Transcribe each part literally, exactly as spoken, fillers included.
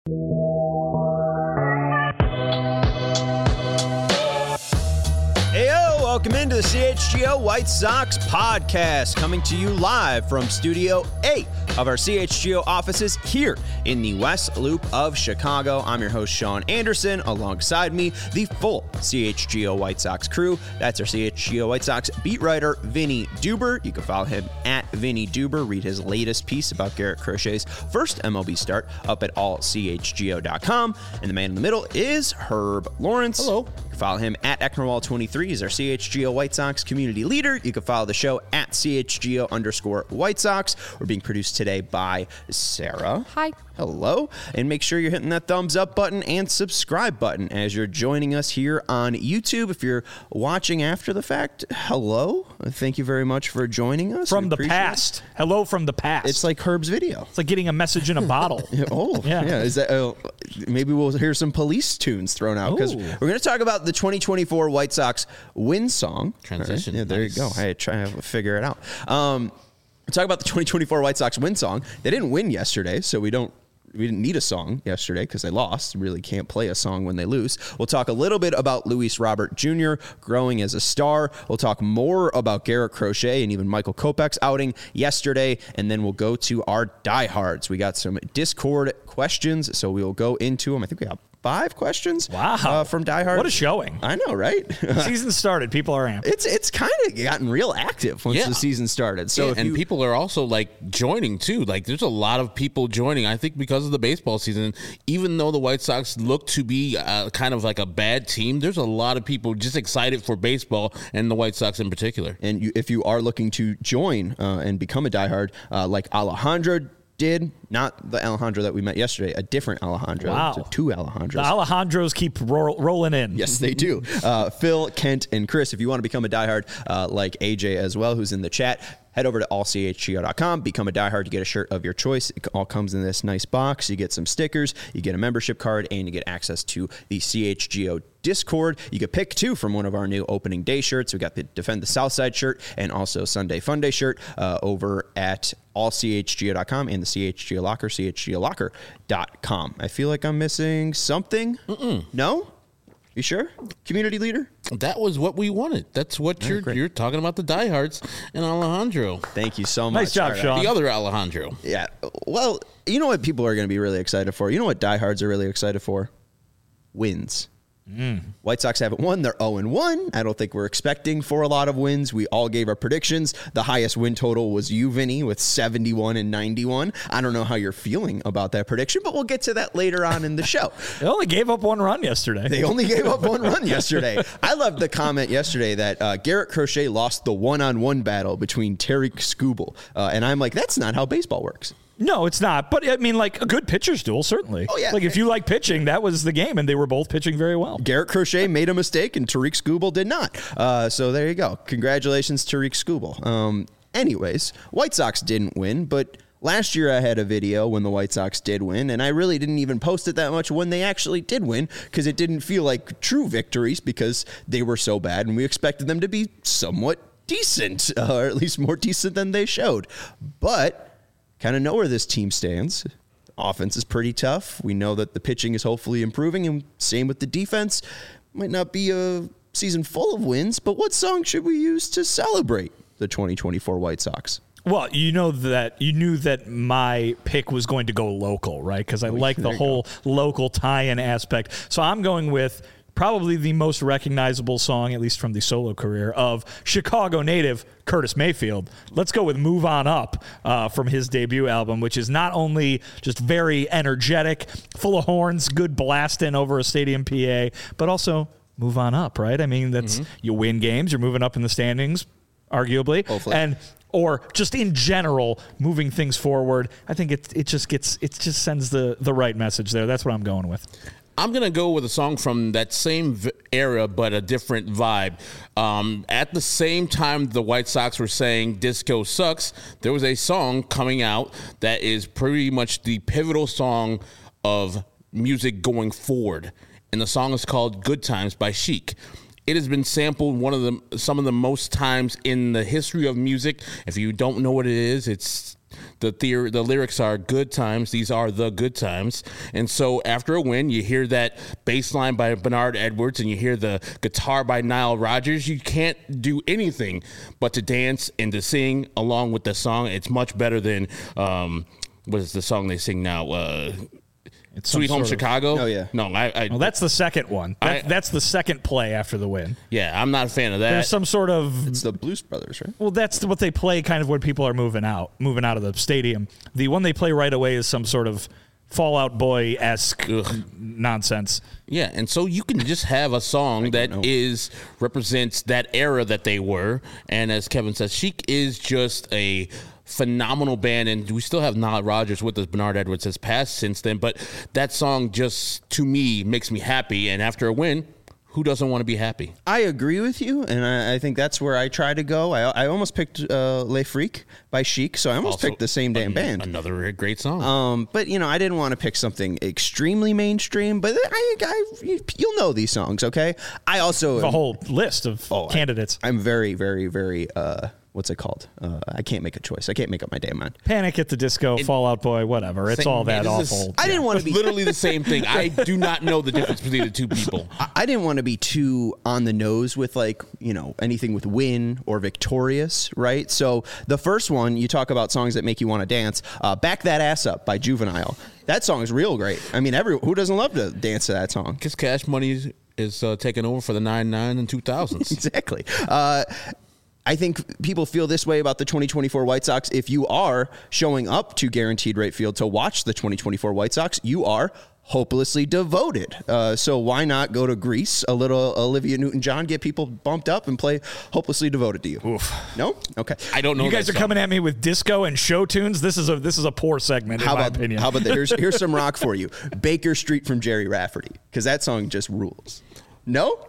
Heyo, welcome into the C H G O White Sox podcast, coming to you live from Studio eight of our C H G O offices here in the West Loop of Chicago. I'm your host, Sean Anderson. Alongside me, the full C H G O White Sox crew. That's our C H G O White Sox beat writer, Vinny Duber. You can follow him at Vinny Duber. Read his latest piece about Garrett Crochet's first M L B start up at all C H G O dot com. And the man in the middle is Herb Lawrence. Hello. You can follow him at Ecknerwall twenty-three. He's our C H G O White Sox community leader. You can follow the show at C H G O underscore White Sox. We're being produced today by Sarah. Hi. Hello. And make sure you're hitting that thumbs up button and subscribe button as you're joining us here on YouTube. If you're watching after the fact, hello. Thank you very much for joining us. From the past. It. Hello from the past. It's like Herb's video. It's like getting a message in a bottle. oh, yeah. yeah. Is that, uh, maybe we'll hear some police tunes thrown out because we're going to talk about the twenty twenty-four White Sox win song. Transition. Right? Yeah, there nice. you go. I try to figure it out. Um, we'll talk about the twenty twenty-four White Sox win song. They didn't win yesterday, so we don't We didn't need a song yesterday because they lost. Really can't play a song when they lose. We'll talk a little bit about Luis Robert Junior growing as a star. We'll talk more about Garrett Crochet and even Michael Kopech's outing yesterday. And then we'll go to our diehards. We got some Discord questions, so we'll go into them. I think we got five questions. Wow. Uh, from diehards. What a showing. I know, right? The season started. People are amped. It's it's kind of gotten real active once yeah. the season started. So yeah, if and you, people are also like joining too. Like there's a lot of people joining. I think because of the baseball season, even though the White Sox look to be uh, kind of like a bad team, there's a lot of people just excited for baseball and the White Sox in particular. And you, if you are looking to join uh, and become a diehard, uh, like Alejandro did, not the Alejandro that we met yesterday, a different Alejandro. Wow. So two Alejandros. The Alejandros keep ro- rolling in. Yes, they do. Uh, Phil, Kent, and Chris, if you want to become a diehard, uh, like A J as well, who's in the chat, head over to all C H G O dot com, become a diehard, you get a shirt of your choice. It all comes in this nice box. You get some stickers, you get a membership card, and you get access to the C H G O Discord. You can pick two from one of our new opening day shirts. We got the Defend the Southside shirt and also Sunday Fun Day shirt uh, over at all C H G O dot com and the C H G O Locker, C H G O Locker dot com. I feel like I'm missing something. Mm-mm. No? You sure? Community leader? That was what we wanted. That's what you're you're talking about, the diehards and Alejandro. Thank you so much. Nice job, right, Sean. The other Alejandro. Yeah. Well, you know what people are going to be really excited for? You know what diehards are really excited for? Wins. Mm. White Sox haven't won. They're oh and one. I don't think we're expecting for a lot of wins. We all gave our predictions. The highest win total was you, Vinny, with seventy-one and ninety-one. I don't know how you're feeling about that prediction, but we'll get to that later on in the show. They only gave up one run yesterday. They only gave up one run yesterday. I loved the comment yesterday that uh, Garrett Crochet lost the one-on-one battle between Tariq Skubal. Uh, and I'm like, that's not how baseball works. No, it's not. But, I mean, like, a good pitcher's duel, certainly. Oh, yeah. Like, if you like pitching, that was the game, and they were both pitching very well. Garrett Crochet made a mistake, and Tariq Skubal did not. Uh, so there you go. Congratulations, Tariq Skubal. Um, anyways, White Sox didn't win, but last year I had a video when the White Sox did win, and I really didn't even post it that much when they actually did win because it didn't feel like true victories because they were so bad, and we expected them to be somewhat decent, uh, or at least more decent than they showed. But kind of know where this team stands. Offense is pretty tough. We know that the pitching is hopefully improving, and same with the defense. Might not be a season full of wins, but what song should we use to celebrate the twenty twenty-four White Sox? Well, you know that you knew that my pick was going to go local, right? Because I oh, like the whole go. local tie-in aspect. So I'm going with probably the most recognizable song, at least from the solo career, of Chicago native Curtis Mayfield. Let's go with Move On Up uh, from his debut album, which is not only just very energetic, full of horns, good blasting over a stadium P A, but also move on up, right? I mean, that's mm-hmm. you win games, you're moving up in the standings, arguably. Hopefully. And or just in general, moving things forward. I think it it just gets it just sends the the right message there. That's what I'm going with. I'm going to go with a song from that same era, but a different vibe. Um, at the same time the White Sox were saying disco sucks, there was a song coming out that is pretty much the pivotal song of music going forward. And the song is called Good Times by Chic. It has been sampled one of the some of the most times in the history of music. If you don't know what it is, it's the theory, the lyrics are good times. These are the good times. And so after a win, you hear that bass line by Bernard Edwards and you hear the guitar by Nile Rodgers. You can't do anything but to dance and to sing along with the song. It's much better than um, what is the song they sing now? Uh, It's Sweet Home Chicago. Of, oh yeah. No, I. I well, that's the second one. That, I, that's the second play after the win. Yeah, I'm not a fan of that. There's some sort of. It's the Blues Brothers, right? Well, that's what they play kind of when people are moving out, moving out of the stadium. The one they play right away is some sort of Fall Out Boy-esque nonsense. Yeah, and so you can just have a song that know. is represents that era that they were, and as Kevin says, Chic is just a phenomenal band, and we still have Nile Rodgers with us. Bernard Edwards has passed since then, but that song just, to me, makes me happy, and after a win, who doesn't want to be happy? I agree with you, and I, I think that's where I try to go. I, I almost picked uh, Le Freak by Chic, so I almost Also, picked the same damn an, band. Another great song. Um, but, you know, I didn't want to pick something extremely mainstream, but I, I, you'll know these songs, okay? I also... The whole list of oh, candidates. I, I'm very, very, very... Uh, what's it called? Uh, I can't make a choice. I can't make up my damn mind. Panic at the Disco, it, Fall Out Boy, whatever. It's same, all that it awful. A, I didn't want to be literally the same thing. I do not know the difference between the two people. I, I didn't want to be too on the nose with like, you know, anything with Win or Victorious, right? So the first one, you talk about songs that make you want to dance. Uh, Back That Ass Up by Juvenile. That song is real great. I mean, every who doesn't love to dance to that song? Because Cash Money is, is uh, taking over for the nine nine and two thousands. Exactly. Uh, I think people feel this way about the twenty twenty-four White Sox. If you are showing up to Guaranteed Rate Field to watch the twenty twenty-four White Sox, you are hopelessly devoted. Uh, so why not go to Greece, a little Olivia Newton-John, get people bumped up and play Hopelessly Devoted to You? Oof. No? Okay. I don't know. You guys are song. coming at me with disco and show tunes. This is a this is a poor segment, in how my about, opinion. How about that? Here's, here's some rock for you. Baker Street from Jerry Rafferty, because that song just rules. No?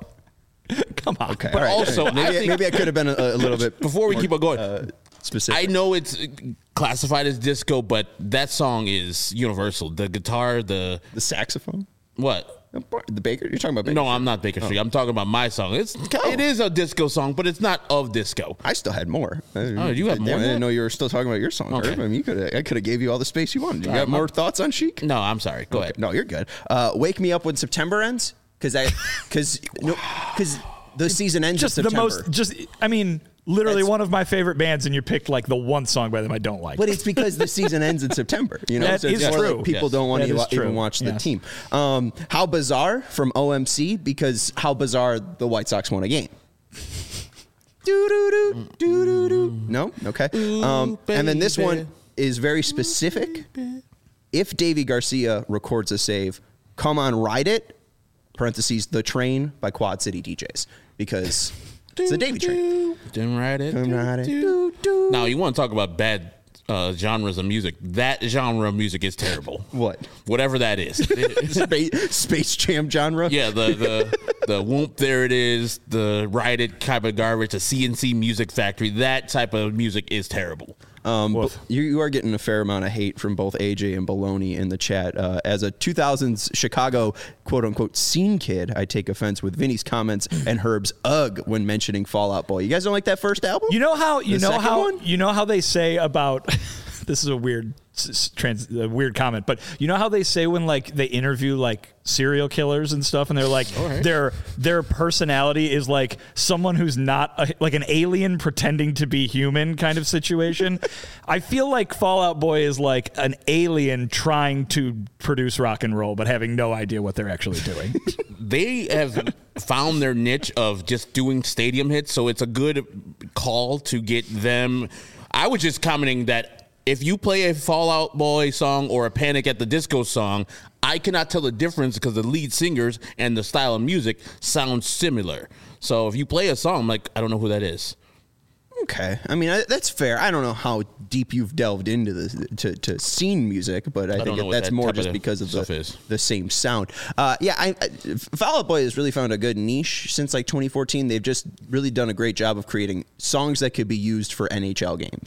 Come on. Okay. But all right. also, maybe I I, think- maybe I could have been a, a little bit Before we more, keep on going, uh, specific. I know it's classified as disco, but that song is universal. The guitar, the the saxophone. what? The Baker. You're talking about Baker. No, I'm not Baker Street. I'm talking about my song. It's it is a disco song, but it's not of disco. I still had more. Oh, you have Damn, more I than didn't that? know you were still talking about your song. Okay. Herb. I mean, you could. I could have gave you all the space you wanted. You All got right, more my- thoughts on Chic? No, I'm sorry. Go ahead. No, you're good. Uh, Wake Me Up When September Ends, because I, because no, because the season ends just in the September. most just I mean literally That's- one of my favorite bands, and you picked like the one song by them I don't like. But it's because the season ends in September. You know, That so it's is more true. like people Yes. don't want That to is even true. watch the Yes. team. Um, How Bizarre from O M C, because How Bizarre the White Sox won a game. Do do do do do do. No, okay. Um, and then this one is very specific. If Davey Garcia records a save, Come On Ride It. Parentheses The Train by Quad City D Js, because it's the Davey Train. Didn't write it. Come Ride It. Do, do. Now you want to talk about bad uh, genres of music? That genre of music is terrible. What? Whatever that is. Space, Space Jam genre. Yeah, the the the whoop, there it is, the Ride It type of garbage, the C N C Music Factory, that type of music is terrible. Um, but you, you are getting a fair amount of hate from both A J and Baloney in the chat. Uh, as a two thousands Chicago quote unquote scene kid, I take offense with Vinny's comments and Herb's ugh when mentioning Fall Out Boy. You guys don't like that first album? You know how you The know second how one? you know how they say about this is a weird s- s- trans a weird comment, but you know how they say when like they interview like serial killers and stuff, and they're like their their personality is like someone who's not a, like an alien pretending to be human kind of situation. I feel like Fall Out Boy is like an alien trying to produce rock and roll, but having no idea what they're actually doing. They have found their niche of just doing stadium hits, so it's a good call to get them. I was just commenting that if you play a Fall Out Boy song or a Panic at the Disco song, I cannot tell the difference because the lead singers and the style of music sound similar. So if you play a song, I'm like, I don't know who that is. Okay, I mean I, that's fair. I don't know how deep you've delved into this to, to scene music, but I, don't think know it, what that's that more type just of because of stuff the, is. the same sound. Uh, yeah, I, I, Fall Out Boy has really found a good niche since like twenty fourteen. They've just really done a great job of creating songs that could be used for N H L games.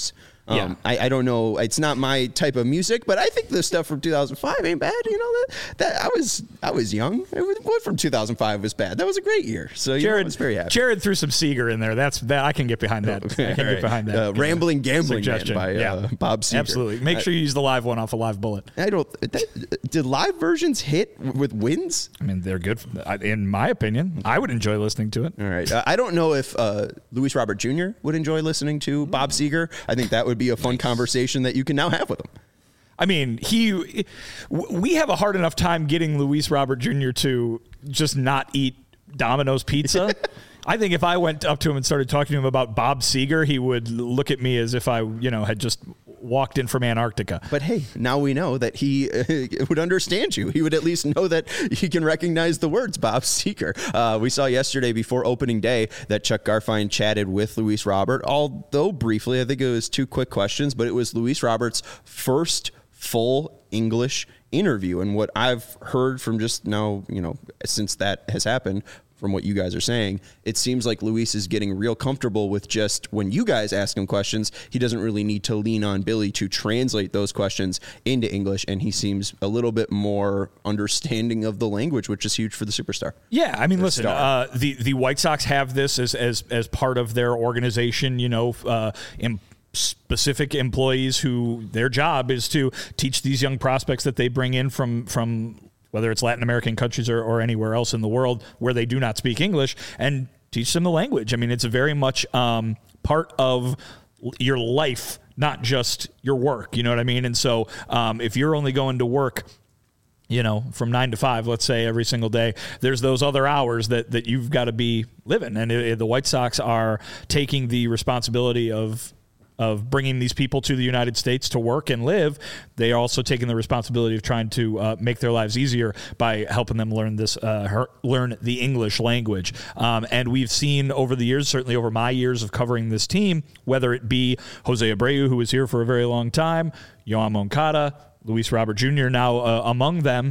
Um, Yeah. I, I don't know. It's not my type of music, but I think the stuff from two thousand five ain't bad. You know that that I was I was young. What from two thousand five was bad? That was a great year. So Jared, I was very happy. Jared threw some Seeger in there. That's that. I can get behind that. Okay, I can right. get behind that. Uh, Rambling Gambling suggestion. Man by yeah. uh, Bob Seger. Absolutely. Make sure you use the live one off a Live Bullet. I don't. That, did live versions hit with wins? I mean, they're good. In my opinion, I would enjoy listening to it. All right. Uh, I don't know if uh, Luis Robert Junior would enjoy listening to Bob Seger. I think that would be a fun conversation that you can now have with him. I mean, he. We have a hard enough time getting Luis Robert Junior to just not eat Domino's pizza. I think if I went up to him and started talking to him about Bob Seger, he would look at me as if I, you know, had just walked in from Antarctica. But hey, now we know that he uh, would understand you. He would at least know that he can recognize the words Bob Seger. Uh, we saw yesterday before opening day that Chuck Garfien chatted with Luis Robert, although briefly. I think it was two quick questions, but it was Luis Robert's first full English interview. And what I've heard from just now, you know, since that has happened, from what you guys are saying, it seems like Luis is getting real comfortable with just when you guys ask him questions, he doesn't really need to lean on Billy to translate those questions into English, and he seems a little bit more understanding of the language, which is huge for the superstar. Yeah, I mean, The listen, uh, the the White Sox have this as as as part of their organization, you know, uh, in specific employees who their job is to teach these young prospects that they bring in from from whether it's Latin American countries or, or anywhere else in the world where they do not speak English, and teach them the language. I mean, it's a very much um, part of your life, not just your work. You know what I mean? And so um, if you're only going to work, you know, from nine to five, let's say, every single day, there's those other hours that, that you've got to be living. And it, it, the White Sox are taking the responsibility of of bringing these people to the United States to work and live. They are also taking the responsibility of trying to uh, make their lives easier by helping them learn this, uh, her, learn the English language. Um, and we've seen over the years, certainly over my years of covering this team, whether it be Jose Abreu, who was here for a very long time, Yoan Moncada, Luis Robert Junior now uh, among them,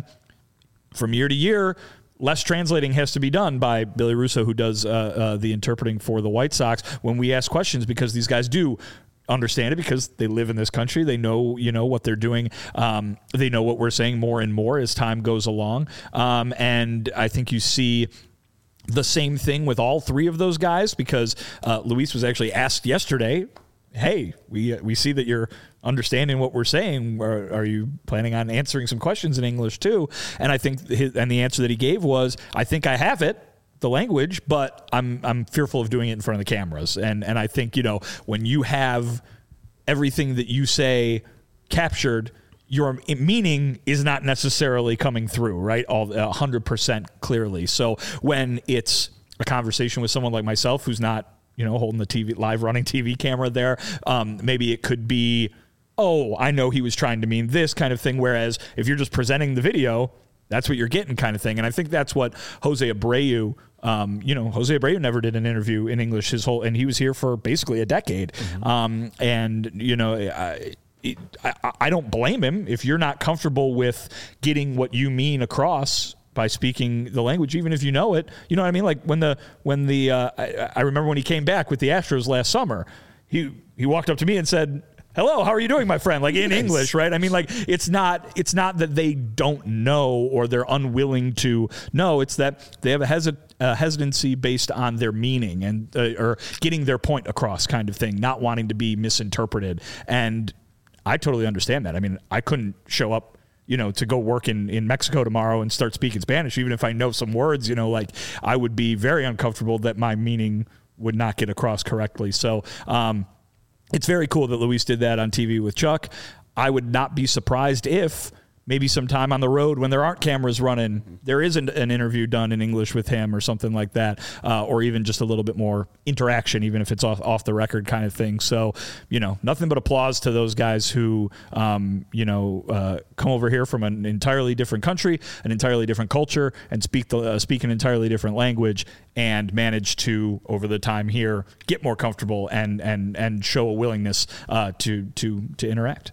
from year to year, less translating has to be done by Billy Russo, who does uh, uh, the interpreting for the White Sox when we ask questions, because these guys do understand it because they live in this country. They know, you know, what they're doing. Um, they know what we're saying more and more as time goes along. Um, and I think you see the same thing with all three of those guys, because uh, Luis was actually asked yesterday, hey, we we see that you're understanding what we're saying. Are, are you planning on answering some questions in English too? And I think his, and the answer that he gave was, I think I have it, the language, but I'm I'm fearful of doing it in front of the cameras. And and I think, you know, when you have everything that you say captured, your meaning is not necessarily coming through, right? All one hundred percent clearly. So when it's a conversation with someone like myself who's not, you know, holding the T V, live running T V camera there, um, maybe it could be, oh, I know he was trying to mean this kind of thing. Whereas if you're just presenting the video, that's what you're getting kind of thing. And I think that's what Jose Abreu, um, you know, Jose Abreu never did an interview in English his whole, and he was here for basically a decade. Mm-hmm. Um, and, you know, I, it, I, I don't blame him if you're not comfortable with getting what you mean across by speaking the language, even if you know it. You know what I mean? Like when the, when the, uh, I, I remember when he came back with the Astros last summer, he, he walked up to me and said, hello, how are you doing, my friend? Like in nice. English, right? I mean, like it's not it's not that they don't know or they're unwilling to know. It's that they have a, hesit, a hesitancy based on their meaning and uh, or getting their point across, kind of thing, not wanting to be misinterpreted. And I totally understand that. I mean, I couldn't show up, you know, to go work in, in Mexico tomorrow and start speaking Spanish, even if I know some words. You know, like I would be very uncomfortable that my meaning would not get across correctly. So. Um, It's very cool that Luis did that on T V with Chuck. I would not be surprised if maybe sometime on the road when there aren't cameras running, there is an, an interview done in English with him or something like that, uh, or even just a little bit more interaction, even if it's off, off the record kind of thing. So, you know, nothing but applause to those guys who, um, you know, uh, come over here from an entirely different country, an entirely different culture, and speak the uh, speak an entirely different language, and manage to, over the time here, get more comfortable and and and show a willingness uh, to to to interact.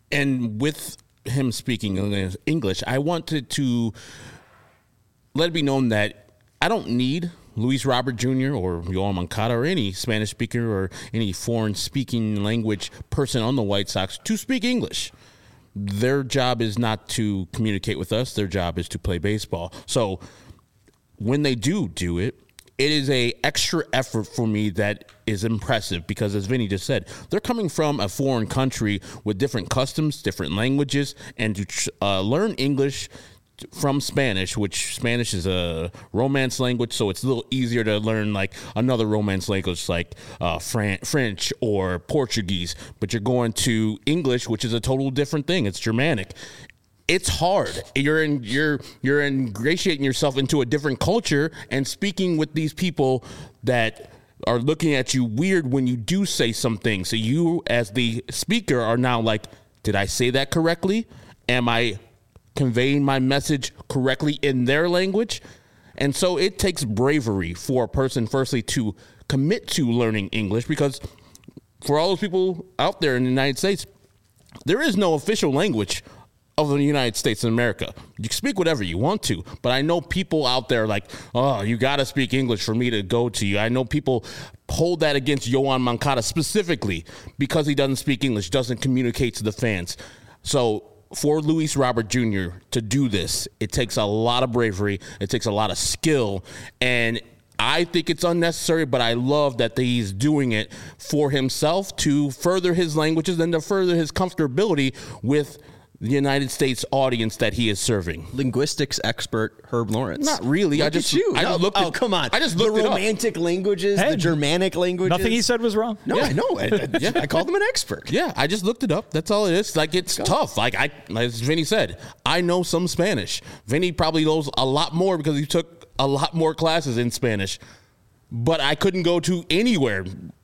And with him speaking English, I wanted to let it be known that I don't need Luis Robert Junior or Yoan Moncada or any Spanish speaker or any foreign speaking language person on the White Sox to speak English. Their job is not to communicate with us. Their job is to play baseball. So when they do do it, it is a extra effort for me that is impressive because, as Vinny just said, they're coming from a foreign country with different customs, different languages, and to uh, learn English from Spanish, which Spanish is a Romance language, so it's a little easier to learn like another Romance language like uh, Fran- French or Portuguese. But you're going to English, which is a total different thing. It's Germanic. It's hard. You're in, you're you're ingratiating yourself into a different culture and speaking with these people that are looking at you weird when you do say something. So you, as the speaker, are now like, did I say that correctly? Am I conveying my message correctly in their language? And so it takes bravery for a person, firstly, to commit to learning English, because for all those people out there in the United States, there is no official language of the United States of America. You can speak whatever you want to, but I know people out there like, oh, you got to speak English for me to go to you. I know people hold that against Yoan Moncada specifically because he doesn't speak English, doesn't communicate to the fans. So for Luis Robert Junior to do this, it takes a lot of bravery. It takes a lot of skill, and I think it's unnecessary, but I love that he's doing it for himself to further his languages and to further his comfortability with the United States audience that he is serving. Linguistics expert Herb Lawrence. Not really. Look I just, at you. I no, just looked oh, at, come on. I just looked the it up. romantic languages, Hey, the Germanic languages. Nothing he said was wrong. No, Yeah. I know. I, I, Yeah. I called him an expert. Yeah, I just looked it up. That's all it is. Like, it's tough. Like, I, as Vinny said, I know some Spanish. Vinny probably knows a lot more because he took a lot more classes in Spanish. But I couldn't go to anywhere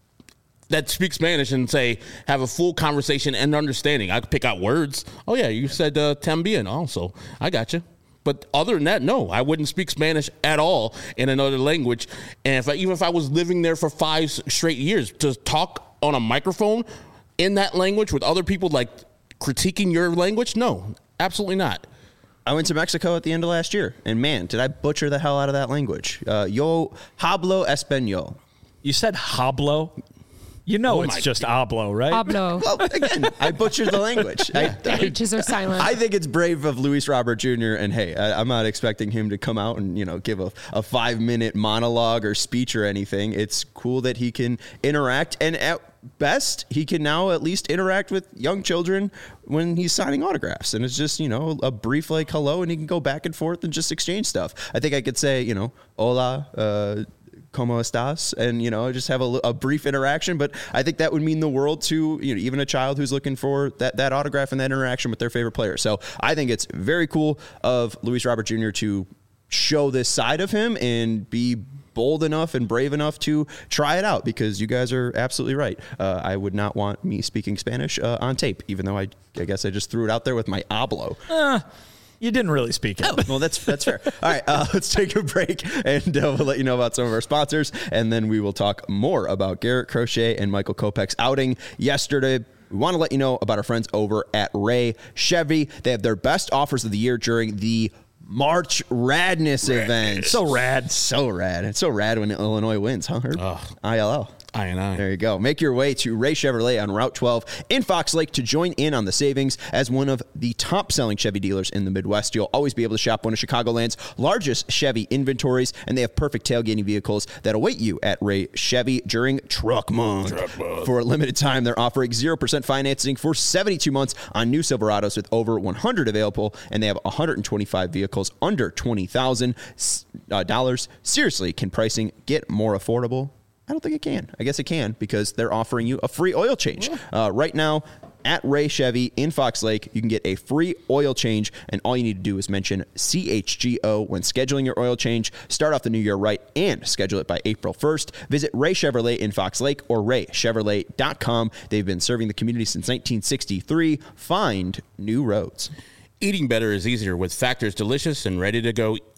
that speak Spanish and say, have a full conversation and understanding. I could pick out words. Oh, yeah, you said uh, también also. I got you. But other than that, no, I wouldn't speak Spanish at all in another language. And if I, even if I was living there for five straight years, to talk on a microphone in that language with other people, like critiquing your language, no, absolutely not. I went to Mexico at the end of last year, and man, did I butcher the hell out of that language. Uh, yo hablo español. You said hablo. You know Oh it's my just God. hablo, right? Pablo. Well, again, I butchered the language. I, The I, H's are silent. I think it's brave of Luis Robert Junior And hey, I, I'm not expecting him to come out and, you know, give a, a five minute monologue or speech or anything. It's cool that he can interact, and at best, he can now at least interact with young children when he's signing autographs. And it's just, you know, a brief like hello, and he can go back and forth and just exchange stuff. I think I could say, you know, hola, uh, ¿Cómo estás? And, you know, just have a, a brief interaction. But I think that would mean the world to, you know, even a child who's looking for that, that autograph and that interaction with their favorite player. So I think it's very cool of Luis Robert Junior to show this side of him and be bold enough and brave enough to try it out, because you guys are absolutely right. Uh, I would not want me speaking Spanish uh, on tape, even though I, I guess I just threw it out there with my hablo. Uh, you didn't really speak it. Oh, well, that's that's fair. All right, uh, let's take a break, and uh, we'll let you know about some of our sponsors, and then we will talk more about Garrett Crochet and Michael Kopech's outing yesterday. We want to let you know about our friends over at Ray Chevy. They have their best offers of the year during the March Radness event. So rad. So rad. It's so rad when Illinois wins, huh, Herb? Ugh. I L L. I and I. There you go. Make your way to Ray Chevrolet on Route twelve in Fox Lake to join in on the savings. As one of the top-selling Chevy dealers in the Midwest, you'll always be able to shop one of Chicagoland's largest Chevy inventories, and they have perfect tailgating vehicles that await you at Ray Chevy during Truck Month. Truck Month. For a limited time, they're offering zero percent financing for seventy-two months on new Silverados with over one hundred available, and they have one hundred twenty-five vehicles under twenty thousand dollars. Seriously, can pricing get more affordable? I don't think it can. I guess it can, because they're offering you a free oil change. Uh, right now, at Ray Chevy in Fox Lake, you can get a free oil change, and all you need to do is mention C H G O when scheduling your oil change. Start off the new year right and schedule it by April first. Visit Ray Chevrolet in Fox Lake or ray chevrolet dot com. They've been serving the community since nineteen sixty-three. Find new roads. Eating better is easier with Factor's delicious and ready-to-go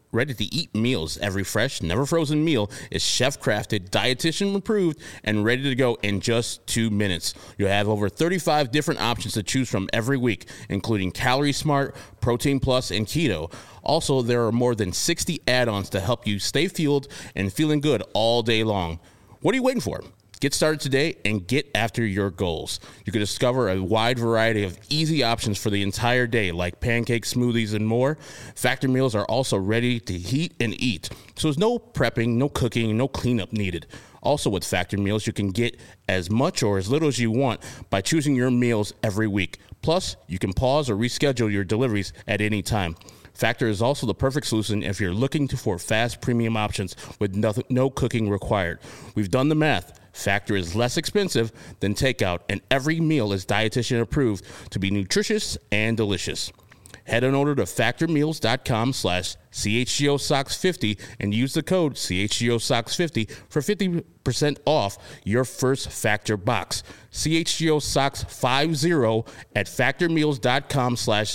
ready-to-eat meals. Every fresh, never frozen meal is chef-crafted, dietitian-approved, and ready to go in just two minutes. You have over thirty-five different options to choose from every week, including Calorie Smart, Protein Plus, and Keto. Also, there are more than sixty add-ons to help you stay fueled and feeling good all day long. What are you waiting for? Get started today and get after your goals. You can discover a wide variety of easy options for the entire day, like pancakes, smoothies, and more. Factor meals are also ready to heat and eat, so there's no prepping, no cooking, no cleanup needed. Also with Factor meals, you can get as much or as little as you want by choosing your meals every week. Plus, you can pause or reschedule your deliveries at any time. Factor is also the perfect solution if you're looking to, for fast premium options with no, no cooking required. We've done the math. Factor is less expensive than takeout, and every meal is dietitian approved to be nutritious and delicious. Head on over to factormeals.com slash CHGOSox50 and use the code C H G O Sox fifty for fifty percent off your first Factor box. C H G O Sox fifty at factormeals.com slash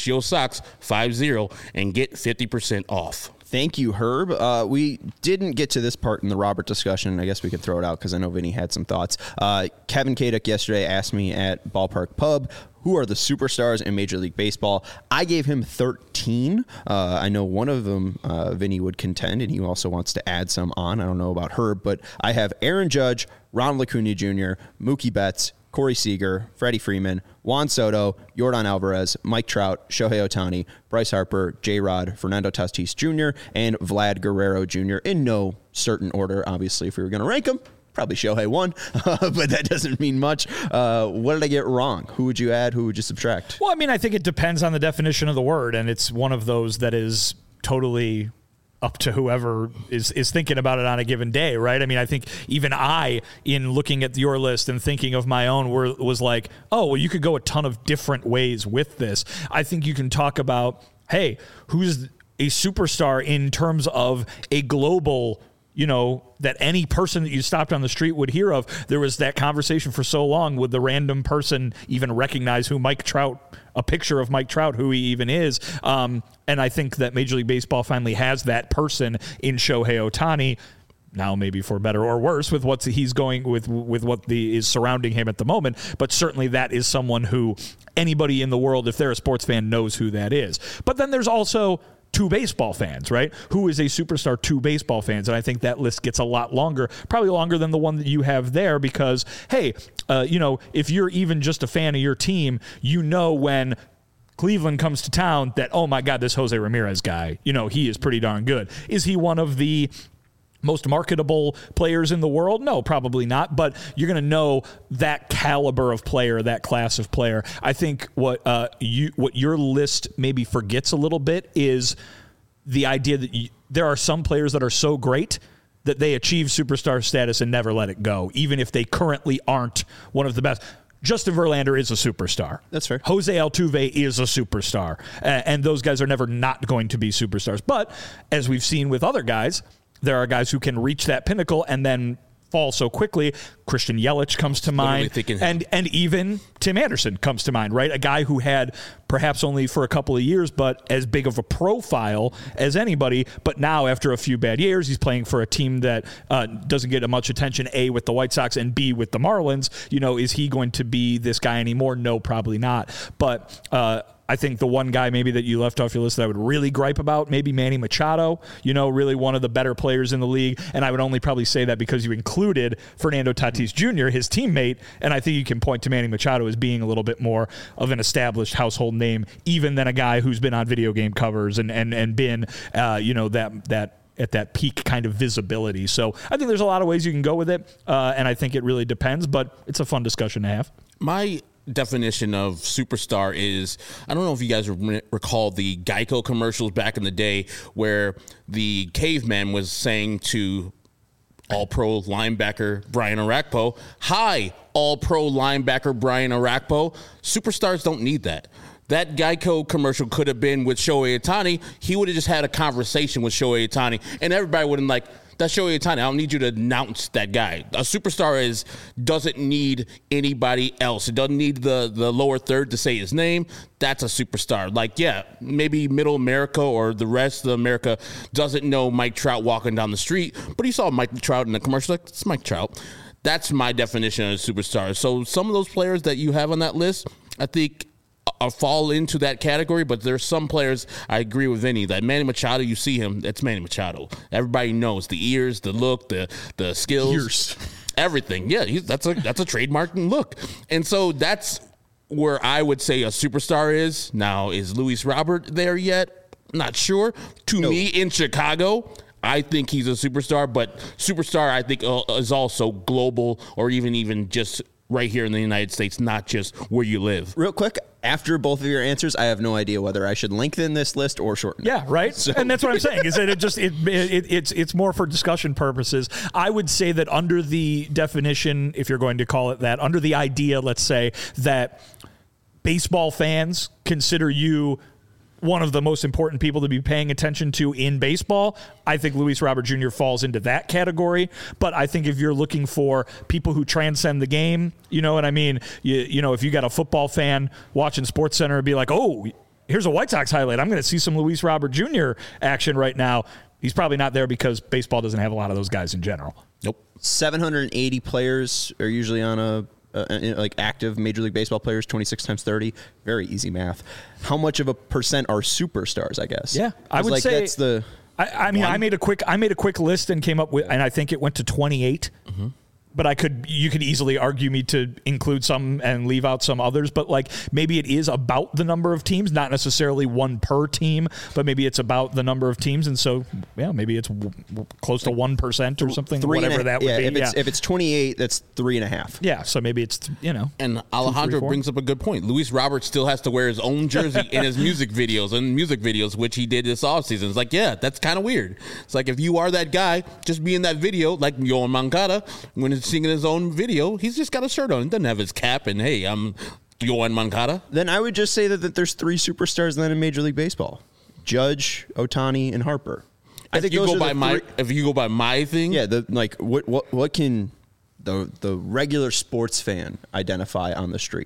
CHGOSox50 and get fifty percent off. Thank you, Herb. Uh, we didn't get to this part in the Robert discussion. I guess we could throw it out because I know Vinny had some thoughts. Uh, Kevin Kaduk yesterday asked me at Ballpark Pub, who are the superstars in Major League Baseball? I gave him thirteen. Uh, I know one of them, uh, Vinny would contend, and he also wants to add some on. I don't know about Herb, but I have Aaron Judge, Ronald Acuna Junior, Mookie Betts, Corey Seager, Freddie Freeman, Juan Soto, Yordan Alvarez, Mike Trout, Shohei Ohtani, Bryce Harper, J-Rod, Fernando Tatis Junior, and Vlad Guerrero Junior in no certain order. Obviously, if we were going to rank them, probably Shohei won, but that doesn't mean much. Uh, what did I get wrong? Who would you add? Who would you subtract? Well, I mean, I think it depends on the definition of the word, and it's one of those that is totally up to whoever is, is thinking about it on a given day, right? I mean, I think even I, in looking at your list and thinking of my own, were, was like, oh, well, you could go a ton of different ways with this. I think you can talk about, hey, who's a superstar in terms of a global, you know, that any person that you stopped on the street would hear of. There was that conversation for so long, would the random person even recognize who Mike Trout, a picture of Mike Trout, who he even is. Um, and I think that Major League Baseball finally has that person in Shohei Ohtani. Now, maybe for better or worse, with what he's going with, with what the is surrounding him at the moment. But certainly, that is someone who anybody in the world, if they're a sports fan, knows who that is. But then there's also two baseball fans, right? Who is a superstar to baseball fans? And I think that list gets a lot longer, probably longer than the one that you have there, because, hey, uh, you know, if you're even just a fan of your team, you know when Cleveland comes to town that, oh my God, this Jose Ramirez guy, you know, he is pretty darn good. Is he one of the most marketable players in the world? No, probably not. But you're going to know that caliber of player, that class of player. I think what uh, you what your list maybe forgets a little bit is the idea that you, there are some players that are so great that they achieve superstar status and never let it go, even if they currently aren't one of the best. Justin Verlander is a superstar. That's fair. Jose Altuve is a superstar. Uh, and those guys are never not going to be superstars. But as we've seen with other guys, there are guys who can reach that pinnacle and then fall so quickly. Christian Yelich comes to mind, and and even Tim Anderson comes to mind, right? A guy who had perhaps only for a couple of years, but as big of a profile as anybody. But now, after a few bad years, he's playing for a team that uh, doesn't get much attention, A, with the White Sox, and B, with the Marlins. You know, is he going to be this guy anymore? No, probably not. But uh, I think the one guy maybe that you left off your list that I would really gripe about, maybe Manny Machado, you know, really one of the better players in the league. And I would only probably say that because you included Fernando Tatis Junior, his teammate. And I think you can point to Manny Machado as being a little bit more of an established household name, even than a guy who's been on video game covers and, and, and been, uh, you know, that, that, at that peak kind of visibility. So I think there's a lot of ways you can go with it. Uh, and I think it really depends, but it's a fun discussion to have. My definition of superstar is, I don't know if you guys re- recall the Geico commercials back in the day where the caveman was saying to all-pro linebacker Brian Orakpo, hi, all-pro linebacker Brian Orakpo. Superstars don't need that. That Geico commercial could have been with Shohei Ohtani. He would have just had a conversation with Shohei Ohtani, and everybody would have been like, That's Shohei Ohtani. I don't need you to announce that guy. A superstar is doesn't need anybody else. It doesn't need the, the lower third to say his name. That's a superstar. Like, yeah, maybe middle America or the rest of America doesn't know Mike Trout walking down the street, but he saw Mike Trout in the commercial. Like, it's Mike Trout. That's my definition of a superstar. So some of those players that you have on that list, I think, uh, fall into that category, but there's some players, I agree with Vinny, that Manny Machado, you see him, that's Manny Machado. Everybody knows the ears, the look, the the skills. Ears. Everything. Yeah, he's, that's a that's a trademark look. And so that's where I would say a superstar is. Now, is Luis Robert there yet? Not sure. To No. me, in Chicago, I think he's a superstar, but superstar, I think, uh, is also global or even even just right here in the United States, not just where you live. Real quick, after both of your answers, I have no idea whether I should lengthen this list or shorten it. Yeah, right. So. And that's what I'm saying is that it just it, it it's it's more for discussion purposes. I would say that under the definition, if you're going to call it that, under the idea, let's say that baseball fans consider you one of the most important people to be paying attention to in baseball, I think Luis Robert Junior falls into that category. But I think if you're looking for people who transcend the game, you know what I mean? You, you know, if you got a football fan watching SportsCenter and be like, oh, here's a White Sox highlight, I'm going to see some Luis Robert Junior action right now. He's probably not there because baseball doesn't have a lot of those guys in general. Nope. seven hundred eighty players are usually on a Uh, like active Major League Baseball players, twenty-six times thirty, very easy math. How much of a percent are superstars? I guess. Yeah, I would like say that's the. I, I mean, one. I made a quick, I made a quick list and came up with, and I think it went to twenty-eight. Mm-hmm. But I could, you could easily argue me to include some and leave out some others. But like maybe it is about the number of teams, not necessarily one per team, but maybe it's about the number of teams. And so, yeah, maybe it's w- w- close to one percent or something, Three whatever and a, that would yeah, be. If it's, yeah. if it's twenty-eight, that's three and a half. Yeah, so maybe it's, you know. And Alejandro four. brings up a good point. Luis Robert still has to wear his own jersey in his music videos and music videos, which he did this offseason. It's like, yeah, that's kind of weird. It's like if you are that guy, just be in that video, like Yoan Moncada, when he's singing his own video. Video, he's just got a shirt on. He doesn't have his cap, and hey, I'm Yoan Moncada. Then I would just say that, that there's three superstars then in Major League Baseball: Judge, Ohtani, and Harper. I If think you those go are by the my, three- if you go by my thing, yeah, the like what what what can the the regular sports fan identify on the street?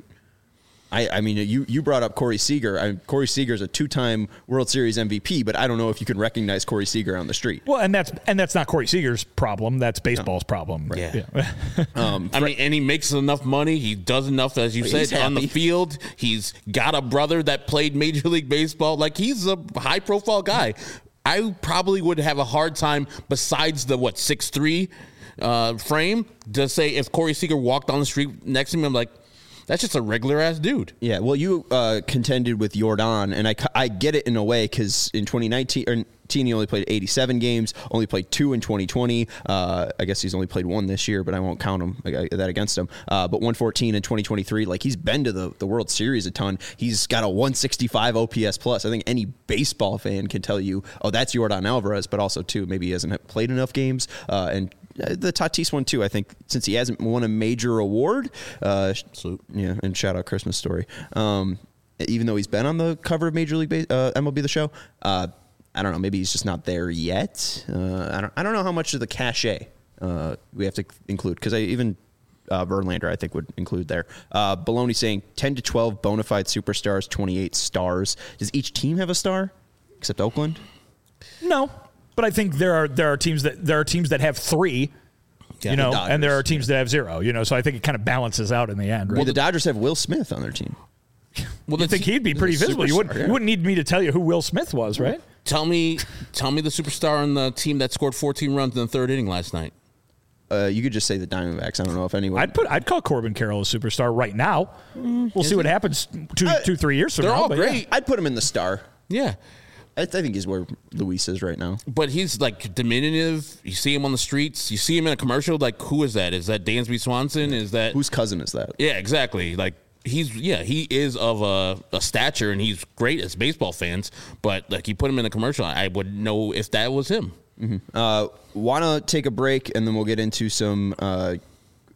I, I mean, you, you brought up Corey Seager. I, Corey Seager is a two-time World Series M V P, but I don't know if you can recognize Corey Seager on the street. Well, and that's and that's not Corey Seager's problem. That's baseball's problem. Right. Yeah. yeah. Um, I mean, and he makes enough money. He does enough, as you He's said, on the happy. field. He's got a brother that played Major League Baseball. Like, he's a high-profile guy. I probably would have a hard time, besides the, what, six three uh, frame, to say if Corey Seager walked on the street next to me, I'm like, that's just a regular-ass dude. Yeah, well, you uh, contended with Jordan, and I, I get it in a way because in twenty nineteen, or he only played eighty-seven games, only played two in twenty twenty. Uh, I guess he's only played one this year, but I won't count him I, that against him. Uh, but one fourteen in twenty twenty-three, like he's been to the, the World Series a ton. He's got a one sixty-five O P S plus. I think any baseball fan can tell you, oh, that's Jordan Alvarez, but also, too, maybe he hasn't played enough games. Uh, and the Tatis one, too, I think, since he hasn't won a major award. Uh, Salute. Yeah, and shout out Christmas Story. Um, even though he's been on the cover of Major League Base, uh, M L B The Show, uh, I don't know. Maybe he's just not there yet. Uh, I don't. I don't know how much of the cachet uh, we have to include because I even uh, Verlander I think would include there. Uh, Baloney saying ten to twelve bona fide superstars, twenty-eight stars. Does each team have a star except Oakland? No, but I think there are there are teams that there are teams that have three, Yeah, you know, the and there are Dodgers, teams that have zero. You know, so I think it kind of balances out in the end. Right? Well, the Dodgers have Will Smith on their team. Well, I think he'd be pretty he's a visible. You wouldn't, superstar, yeah. you wouldn't need me to tell you who Will Smith was, right? Tell me, tell me the superstar on the team that scored fourteen runs in the third inning last night. Uh, you could just say the Diamondbacks. I don't know if anyone. I'd put I'd call Corbin Carroll a superstar right now. We'll see what happens two Uh, two three years from they're now. all but yeah. great. I'd put him in the star. Yeah. I, th- I think he's where Luis is right now. But he's like diminutive. You see him on the streets. You see him in a commercial. Like, who is that? Is that Dansby Swanson? Is that Whose cousin is that? Yeah, exactly. Like he's yeah, he is of a, a stature and he's great as baseball fans. But like you put him in a commercial, I would know if that was him. Uh, Want to take a break and then we'll get into some uh,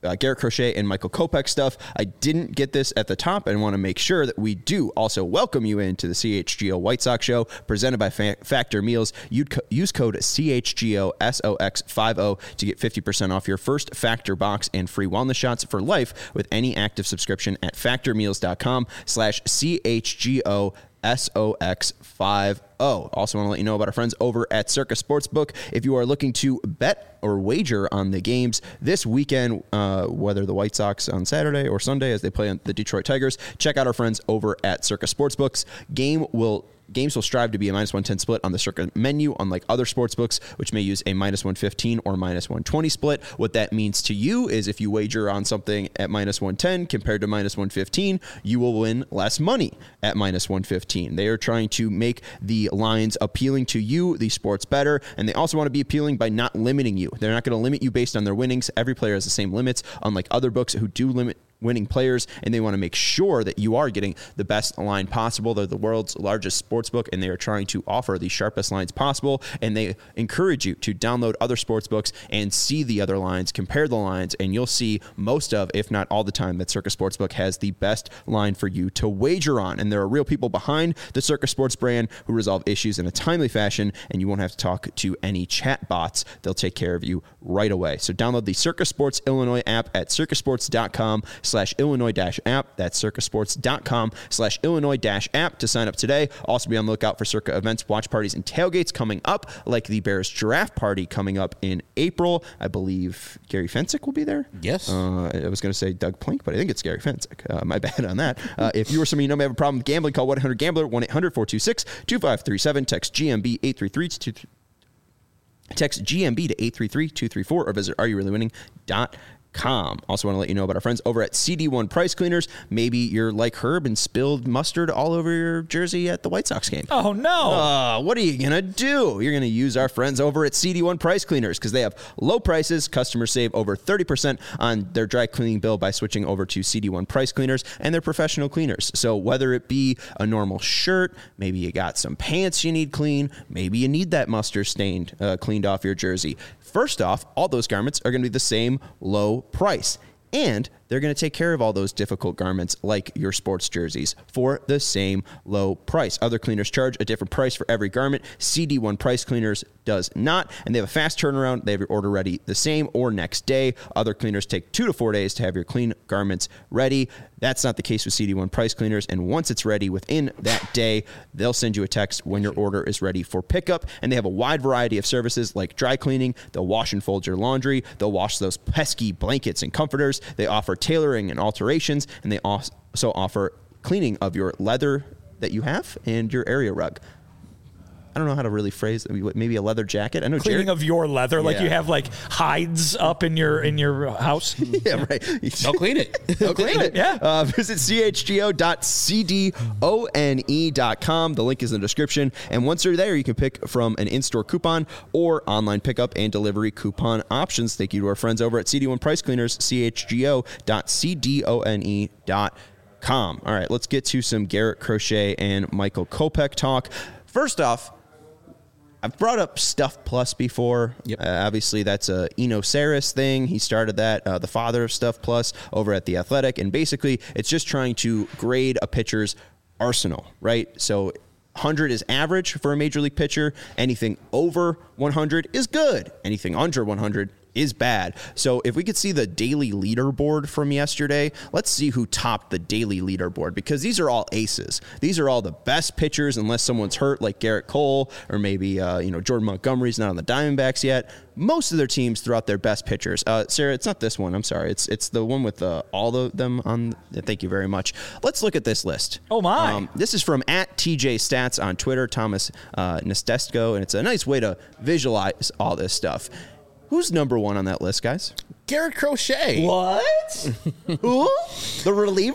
uh, Garrett Crochet and Michael Kopech stuff. I didn't get this at the top and want to make sure that we do also welcome you into the C H G O White Sox show presented by Fa- Factor Meals. You'd co- use code C H G O S O X fifty to get fifty percent off your first Factor box and free wellness shots for life with any active subscription at factormeals.com slash CHGO S O X fifty. Also want to let you know about our friends over at Circa Sportsbook. If you are looking to bet or wager on the games this weekend, uh, whether the White Sox on Saturday or Sunday as they play on the Detroit Tigers, check out our friends over at Circa Sportsbooks. Game will Games will strive to be a minus one ten split on the Circa menu, unlike other sportsbooks, which may use a minus one fifteen or minus one twenty split. What that means to you is if you wager on something at minus one ten compared to minus one fifteen, you will win less money at minus one fifteen. They are trying to make the lines appealing to you, the sports better, and they also want to be appealing by not limiting you. They're not going to limit you based on their winnings. Every player has the same limits, unlike other books who do limit winning players, and they want to make sure that you are getting the best line possible. They're the world's largest sports book, and they are trying to offer the sharpest lines possible, and they encourage you to download other sports books and see the other lines, compare the lines, and you'll see most of, if not all the time, that Circa Sportsbook has the best line for you to wager on. And there are real people behind the Circa Sports brand who resolve issues in a timely fashion, and you won't have to talk to any chat bots. They'll take care of you right away. So download the Circa Sports Illinois app at circasports.com slash Illinois dash app. That's circasports.com slash Illinois dash app to sign up today. Also be on the lookout for Circa events, watch parties, and tailgates coming up, like the Bears Giraffe Party coming up in April. I believe Gary Fensick will be there. Yes. Uh, I was going to say Doug Plink, but I think it's Gary Fensick. Uh, my bad on that. Uh, if you or somebody you know may have a problem with gambling, call one eight hundred gambler, one eight hundred four two six two five three seven. Text G M B eight three three two three. Text G M B to eight three three two three four or visit are you really winning dot com. Also want to let you know about our friends over at C D one Price Cleaners. Maybe you're like Herb and spilled mustard all over your jersey at the White Sox game. Oh, no. Uh, what are you going to do? You're going to use our friends over at C D one Price Cleaners because they have low prices. Customers save over thirty percent on their dry cleaning bill by switching over to C D one Price Cleaners, and they're professional cleaners. So whether it be a normal shirt, maybe you got some pants you need clean, maybe you need that mustard stained, uh, cleaned off your jersey. First off, all those garments are going to be the same low price, and they're going to take care of all those difficult garments like your sports jerseys for the same low price. Other cleaners charge a different price for every garment. C D one Price Cleaners does not, and they have a fast turnaround. They have your order ready the same or next day. Other cleaners take two to four days to have your clean garments ready. That's not the case with C D one Price Cleaners, and once it's ready within that day, they'll send you a text when your order is ready for pickup, and they have a wide variety of services like dry cleaning. They'll wash and fold your laundry. They'll wash those pesky blankets and comforters. They offer tailoring and alterations, and they also offer cleaning of your leather that you have and your area rug. I don't know how to really phrase it. Maybe a leather jacket. I know Cleaning Jared, of your leather, like Yeah. you have like hides up in your in your house. yeah, right. Don't clean it. Don't clean it. Yeah. Uh, visit C H G O dot C D O N E dot com. The link is in the description. And once you're there, you can pick from an in-store coupon or online pickup and delivery coupon options. Thank you to our friends over at C D one Price Cleaners, C H G O dot C D O N E dot com. All right, let's get to some Garrett Crochet and Michael Kopech talk. First off, I've brought up Stuff Plus before. Yep. Uh, obviously, that's a Eno Saris thing. He started that, uh, the father of Stuff Plus, over at The Athletic. And basically, it's just trying to grade a pitcher's arsenal, right? So one hundred is average for a major league pitcher. Anything over one hundred is good. Anything under one hundred is bad. So if we could see the daily leaderboard from yesterday, let's see who topped the daily leaderboard, because these are all aces. These are all the best pitchers, unless someone's hurt like Garrett Cole or maybe uh, you know Jordan Montgomery's not on the Diamondbacks yet. Most of their teams throw out their best pitchers. Uh, Sarah, it's not this one. I'm sorry. It's it's the one with uh, all of them on. Thank you very much. Let's look at this list. Oh, my. Um, this is from at T J Stats on Twitter, Thomas uh, Nestesko, and it's a nice way to visualize all this stuff. Who's number one on that list, guys? Garrett Crochet. What? Who? The reliever?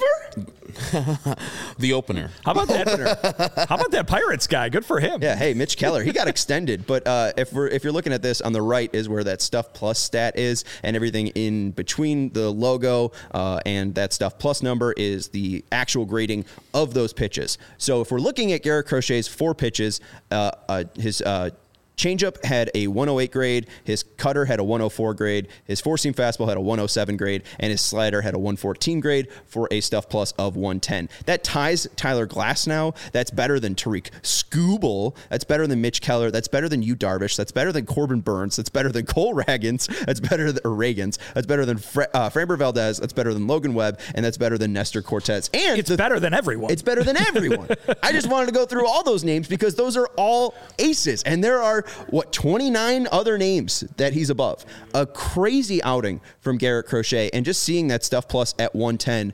The opener. How about that? How about that Pirates guy? Good for him. Yeah. Hey, Mitch Keller. He got extended, but uh, if we're if you're looking at this on the right is where that Stuff Plus stat is, and everything in between the logo uh, and that Stuff Plus number is the actual grading of those pitches. So if we're looking at Garrett Crochet's four pitches, uh, uh, his uh, changeup had a one oh eight grade. His cutter had a one oh four grade, his four-seam fastball had a one oh seven grade, and his slider had a one fourteen grade for a Stuff Plus of one ten. That ties Tyler Glasnow. That's better than Tariq Skubal. That's better than Mitch Keller. That's better than Yu Darvish. That's better than Corbin Burns. That's better than Cole Ragans. That's better than Reagans. That's better than Fra- uh, Framber Valdez. That's better than Logan Webb, and that's better than Nestor Cortez. And it's the, better than everyone. It's better than everyone. I just wanted to go through all those names because those are all aces, and there are what twenty-nine other names that he's above. A crazy outing from Garrett Crochet, and just seeing that Stuff Plus at one ten,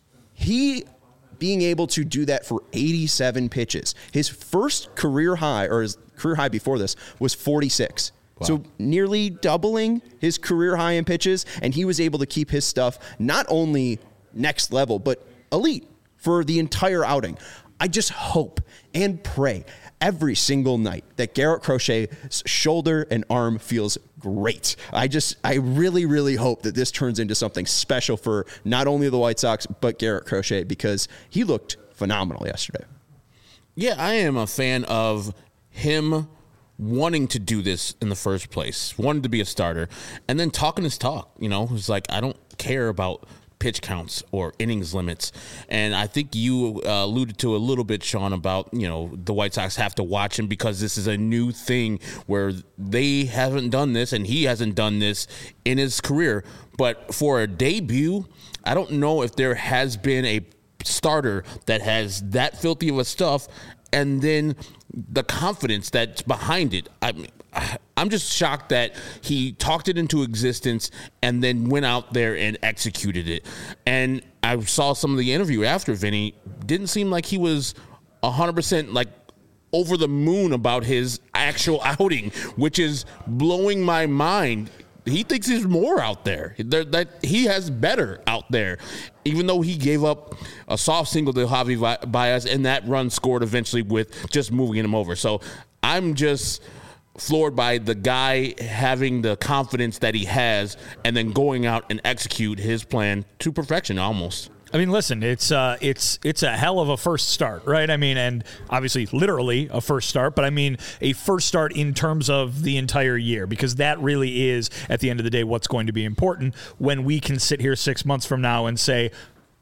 he being able to do that for eighty-seven pitches. His first career high, or his career high before this, was forty-six. Wow. So nearly doubling his career high in pitches, and he was able to keep his stuff not only next level, but elite for the entire outing. I just hope and pray every single night that Garrett Crochet's shoulder and arm feels great. I just, I really, really hope that this turns into something special for not only the White Sox, but Garrett Crochet, because he looked phenomenal yesterday. Yeah, I am a fan of him wanting to do this in the first place, wanted to be a starter, and then talking his talk. You know, it's like, I don't care about pitch counts or innings limits. And I think you uh, alluded to a little bit, Sean, about, you know, the White Sox have to watch him because this is a new thing where they haven't done this and he hasn't done this in his career. But for a debut, I don't know if there has been a starter that has that filthy of a stuff and then the confidence that's behind it. I mean, I'm just shocked that he talked it into existence and then went out there and executed it. And I saw some of the interview after Vinny. Didn't seem like he was one hundred percent like over the moon about his actual outing, which is blowing my mind. He thinks there's more out there, that he has better out there, even though he gave up a soft single to Javi Baez, and that run scored eventually with just moving him over. So I'm just floored by the guy having the confidence that he has and then going out and execute his plan to perfection almost. I mean, listen, it's uh, it's it's a hell of a first start, right? I mean, and obviously literally a first start, but I mean a first start in terms of the entire year, because that really is, at the end of the day, what's going to be important when we can sit here six months from now and say,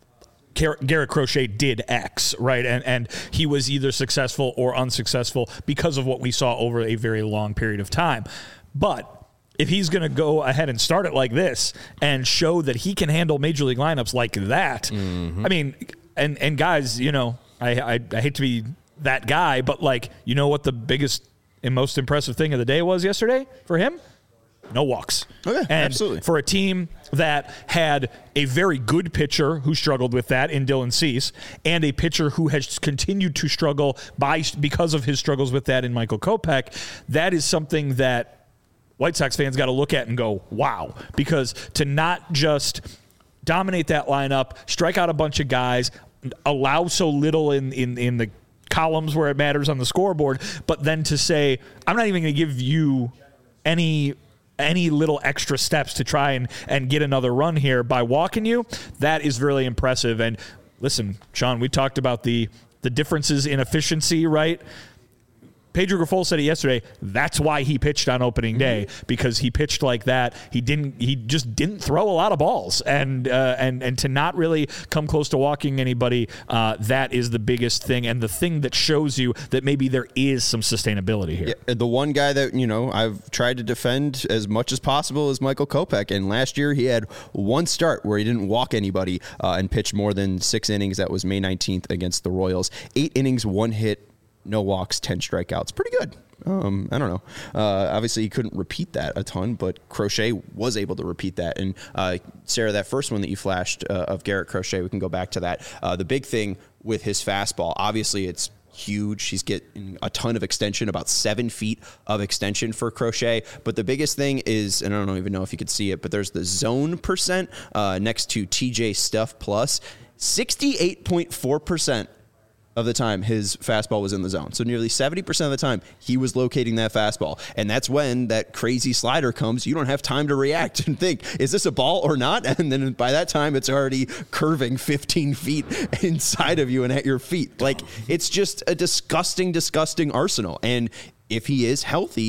Garrett Crochet did X, right? And and he was either successful or unsuccessful because of what we saw over a very long period of time. But if he's going to go ahead and start it like this and show that he can handle major league lineups like that, mm-hmm. I mean, and and guys, you know, I, I I hate to be that guy, but like, you know what the biggest and most impressive thing of the day was yesterday for him? No walks. Okay, and absolutely. For a team that had a very good pitcher who struggled with that in Dylan Cease, and a pitcher who has continued to struggle by because of his struggles with that in Michael Kopech, that is something that White Sox fans got to look at and go, wow, because to not just dominate that lineup, strike out a bunch of guys, allow so little in, in, in the columns where it matters on the scoreboard, but then to say, I'm not even going to give you any any little extra steps to try and, and get another run here by walking you, that is really impressive. And listen, Sean, we talked about the the differences in efficiency, right? Pedro Grifol said it yesterday. That's why he pitched on opening day, because he pitched like that. He didn't. He just didn't throw a lot of balls, and uh, and and to not really come close to walking anybody. Uh, that is the biggest thing, and the thing that shows you that maybe there is some sustainability here. Yeah, the one guy that you know I've tried to defend as much as possible is Michael Kopech, and last year he had one start where he didn't walk anybody uh, and pitch more than six innings. That was May nineteenth against the Royals. Eight innings, one hit. No walks, ten strikeouts. Pretty good. Um, I don't know. Uh, obviously, he couldn't repeat that a ton, but Crochet was able to repeat that. And, uh, Sarah, that first one that you flashed uh, of Garrett Crochet, we can go back to that. Uh, the big thing with his fastball, obviously, it's huge. He's getting a ton of extension, about seven feet of extension for Crochet. But the biggest thing is, and I don't even know if you could see it, but there's the zone percent uh, next to T J Stuff Plus. sixty-eight point four percent of the time his fastball was in the zone. So nearly seventy percent of the time he was locating that fastball. And that's when that crazy slider comes. You don't have time to react and think, is this a ball or not? And then by that time it's already curving fifteen feet inside of you and at your feet. Like, it's just a disgusting, disgusting arsenal. And if he is healthy,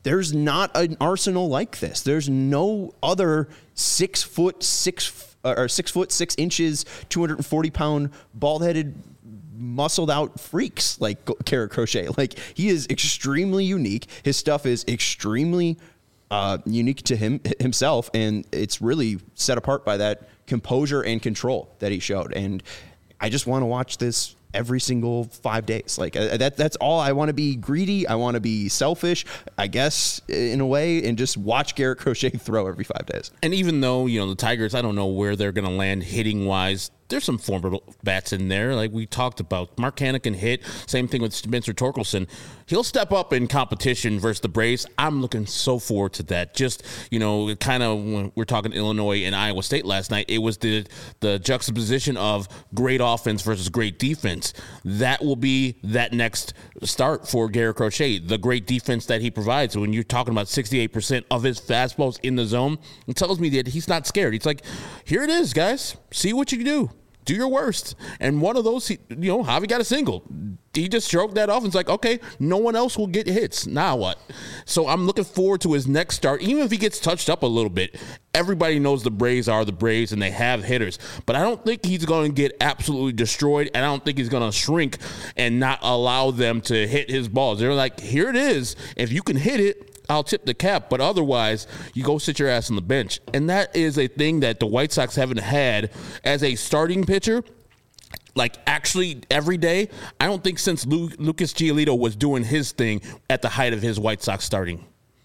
there's not an arsenal like this. There's no other six foot six or six foot six inches, two hundred forty pound bald headed, muscled out freaks like Garrett Crochet. Like, he is extremely unique. His stuff is extremely uh, unique to him himself, and it's really set apart by that composure and control that he showed. And I just want to watch this every single five days. Like uh, that, that's all. I want to be greedy. I want to be selfish, I guess, in a way, and just watch Garrett Crochet throw every five days. And even though, you know, the Tigers, I don't know where they're going to land hitting wise. There's some formidable bats in there, like we talked about. Mark Canha can hit. Same thing with Spencer Torkelson. He'll step up in competition versus the Braves. I'm looking so forward to that. Just, you know, kind of when we we're talking Illinois and Iowa State last night, it was the the juxtaposition of great offense versus great defense. That will be that next start for Garrett Crochet, the great defense that he provides. When you're talking about sixty-eight percent of his fastballs in the zone, it tells me that he's not scared. He's like, here it is, guys. See what you can do. Do your worst. And one of those, you know, Javi got a single. He just stroked that off and it's like, okay, no one else will get hits. Now what? So I'm looking forward to his next start. Even if he gets touched up a little bit, everybody knows the Braves are the Braves and they have hitters. But I don't think he's going to get absolutely destroyed, and I don't think he's going to shrink and not allow them to hit his balls. They're like, here it is. If you can hit it, I'll tip the cap, but otherwise, you go sit your ass on the bench. And that is a thing that the White Sox haven't had as a starting pitcher, like actually every day. I don't think since Lu- Lucas Giolito was doing his thing at the height of his White Sox starting.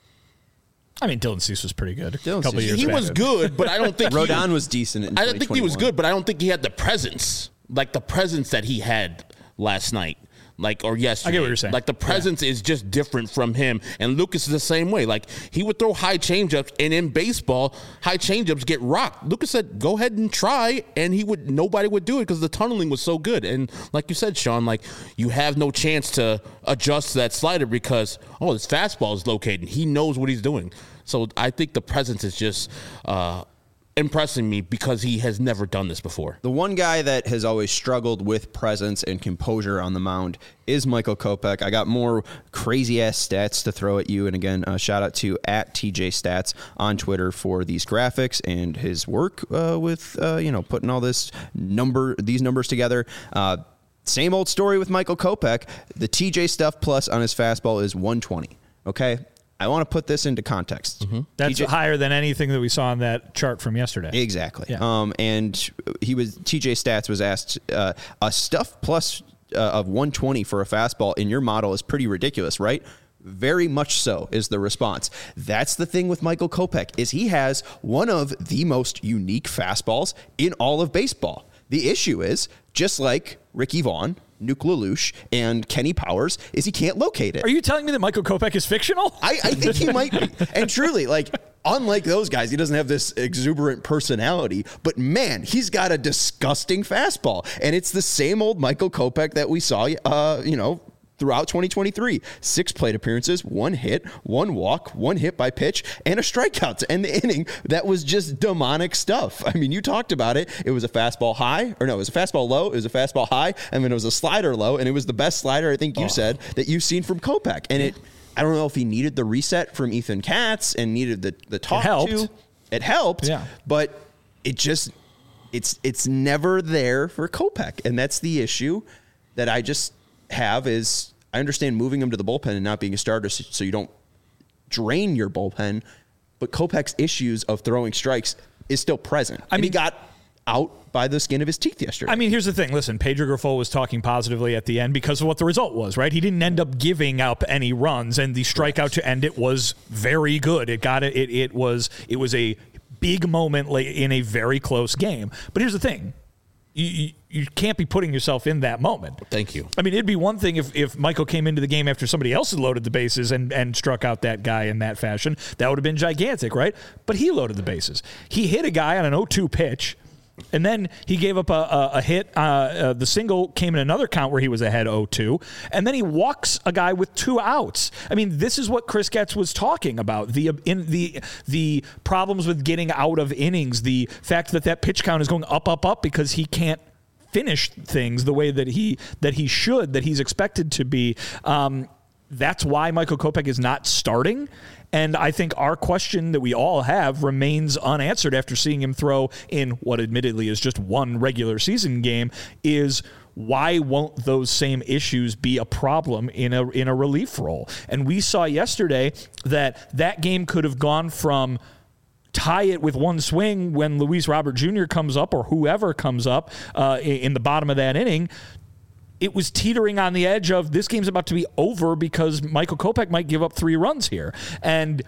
I mean, Dylan Cease was pretty good. Dylan a couple Cease. years He back. was good, but I don't think Rodon he, was decent in I don't think he was twenty twenty-one. good, but I don't think he had the presence, like the presence that he had last night. Like, or yesterday. I get what you're saying. Like, the presence yeah. is just different from him. And Lucas is the same way. Like, he would throw high changeups, and in baseball, high changeups get rocked. Lucas said, go ahead and try, and he would. Nobody would do it because the tunneling was so good. And like you said, Sean, like, you have no chance to adjust that slider because, oh, his fastball is located. He knows what he's doing. So I think the presence is just uh, impressing me because he has never done this before. The one guy that has always struggled with presence and composure on the mound is Michael Kopech. I got more crazy-ass stats to throw at you. And again, uh, shout out to at T J Stats on Twitter for these graphics and his work uh, with, uh, you know, putting all this number, these numbers together. Uh, same old story with Michael Kopech. The T J stuff plus on his fastball is one twenty. Okay? I want to put this into context. Mm-hmm. That's T J, higher than anything that we saw on that chart from yesterday. Exactly. Yeah. Um, and he was T J Stats was asked uh, a stuff plus uh, of one twenty for a fastball in your model is pretty ridiculous, right? Very much so is the response. That's the thing with Michael Kopech is he has one of the most unique fastballs in all of baseball. The issue is just like Ricky Vaughn, Nuke LaLoosh, and Kenny Powers is he can't locate it. Are you telling me that Michael Kopech is fictional? I, I think he might be. And truly, like, unlike those guys, he doesn't have this exuberant personality, but man, he's got a disgusting fastball. And it's the same old Michael Kopech that we saw, uh, you know, throughout twenty twenty-three. Six plate appearances, one hit, one walk, one hit by pitch, and a strikeout to end the inning. That was just demonic stuff. I mean, you talked about it. It was a fastball high, or no, it was a fastball low, it was a fastball high, and then it was a slider low, and it was the best slider, I think you oh. said, that you've seen from Kopech. And it, I don't know if he needed the reset from Ethan Katz and needed the, the talk it helped. to. It helped, yeah. but it just, it's it's never there for Kopech. And that's the issue that I just have is I understand moving him to the bullpen and not being a starter so you don't drain your bullpen, but Kopech's issues of throwing strikes is still present. I and mean, he got out by the skin of his teeth yesterday. I mean, here's the thing. Listen, Pedro Grifol was talking positively at the end because of what the result was, right? He didn't end up giving up any runs, and the strikeout to end it was very good. It got it. It, it was it was a big moment in a very close game. But here's the thing. You, you, you can't be putting yourself in that moment. Thank you. I mean, it'd be one thing if, if Michael came into the game after somebody else had loaded the bases and, and struck out that guy in that fashion. That would have been gigantic, right? But he loaded the bases. He hit a guy on an oh two pitch, and then he gave up a, a, a hit. Uh, uh, the single came in another count where he was ahead oh two, and then he walks a guy with two outs. I mean, this is what Chris Getz was talking about, the in the the problems with getting out of innings, the fact that that pitch count is going up, up, up because he can't finish things the way that he that he should, that he's expected to be. Um, that's why Michael Kopech is not starting. And I think our question that we all have remains unanswered after seeing him throw in what admittedly is just one regular season game is why won't those same issues be a problem in a in a relief role? And we saw yesterday that that game could have gone from tie it with one swing when Luis Robert Junior comes up or whoever comes up uh, in the bottom of that inning. It was teetering on the edge of this game's about to be over because Michael Kopech might give up three runs here. And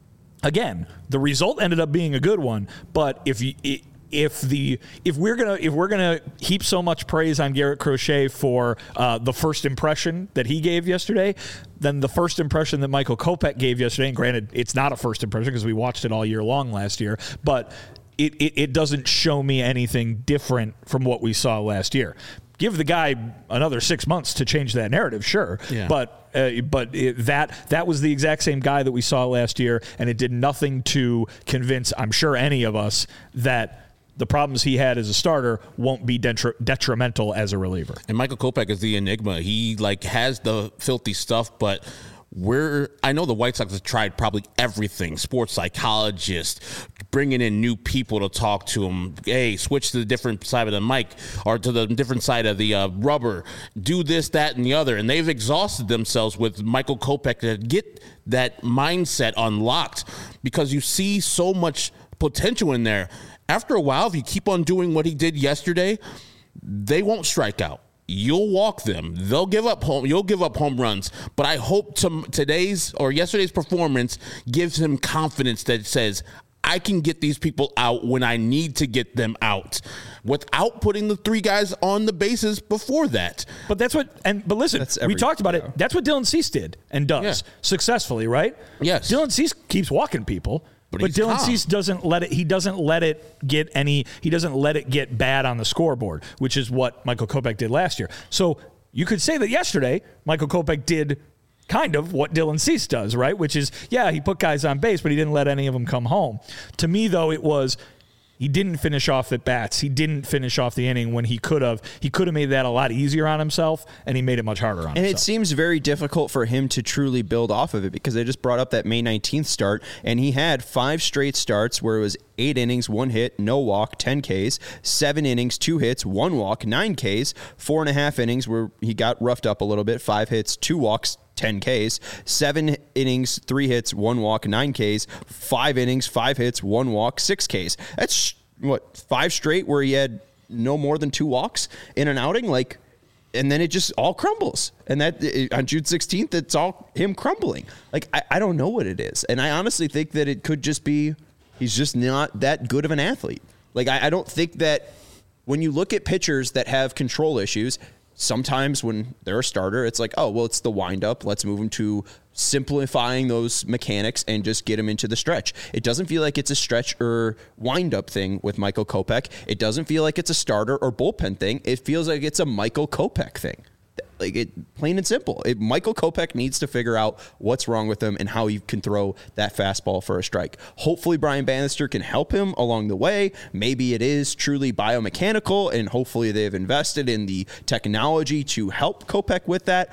again, the result ended up being a good one. But if you, if the if we're gonna if we're gonna heap so much praise on Garrett Crochet for uh, the first impression that he gave yesterday, then the first impression that Michael Kopech gave yesterday, and granted, it's not a first impression because we watched it all year long last year, but it, it it doesn't show me anything different from what we saw last year. Give the guy another six months to change that narrative, sure. Yeah. But uh, but it, that that was the exact same guy that we saw last year, and it did nothing to convince, I'm sure, any of us that the problems he had as a starter won't be detri- detrimental as a reliever. And Michael Kopech is the enigma. He like has the filthy stuff, but we're I know the White Sox have tried probably everything, sports psychologist, bringing in new people to talk to him. Hey, switch to the different side of the mic or to the different side of the uh, rubber. Do this, that, and the other. And they've exhausted themselves with Michael Kopech to get that mindset unlocked because you see so much potential in there. After a while, if you keep on doing what he did yesterday, they won't strike out. You'll walk them. They'll give up home. You'll give up home runs. But I hope to, today's or yesterday's performance gives him confidence that says, I can get these people out when I need to get them out without putting the three guys on the bases before that. But that's what, and but listen, we talked about it. That's what Dylan Cease did and does yeah. successfully, right? Yes. Dylan Cease keeps walking people. But, but Dylan calm. Cease doesn't let it. He doesn't let it get any. He doesn't let it get bad on the scoreboard, which is what Michael Kopech did last year. So you could say that yesterday Michael Kopech did kind of what Dylan Cease does, right? Which is, yeah, he put guys on base, but he didn't let any of them come home. To me, though, it was he didn't finish off at bats. He didn't finish off the inning when he could have. He could have made that a lot easier on himself, and he made it much harder on and himself. And it seems very difficult for him to truly build off of it because I just brought up that May nineteenth start, and he had five straight starts where it was eight innings, one hit, no walk, ten Ks, seven innings, two hits, one walk, nine Ks, four and a half innings where he got roughed up a little bit, five hits, two walks, ten Ks, seven innings, three hits, one walk, nine Ks, five innings, five hits, one walk, six Ks. That's what, five straight where he had no more than two walks in an outing? Like, and then it just all crumbles. And that it, on June sixteenth, it's all him crumbling. Like, I, I don't know what it is. And I honestly think that it could just be he's just not that good of an athlete. Like, I, I don't think that when you look at pitchers that have control issues, sometimes when they're a starter, it's like, oh, well, it's the windup. Let's move them to simplifying those mechanics and just get them into the stretch. It doesn't feel like it's a stretch or windup thing with Michael Kopech. It doesn't feel like it's a starter or bullpen thing. It feels like it's a Michael Kopech thing. Like, it, plain and simple. It, Michael Kopech needs to figure out what's wrong with him and how he can throw that fastball for a strike. Hopefully Brian Bannister can help him along the way. Maybe it is truly biomechanical, and hopefully they've invested in the technology to help Kopech with that.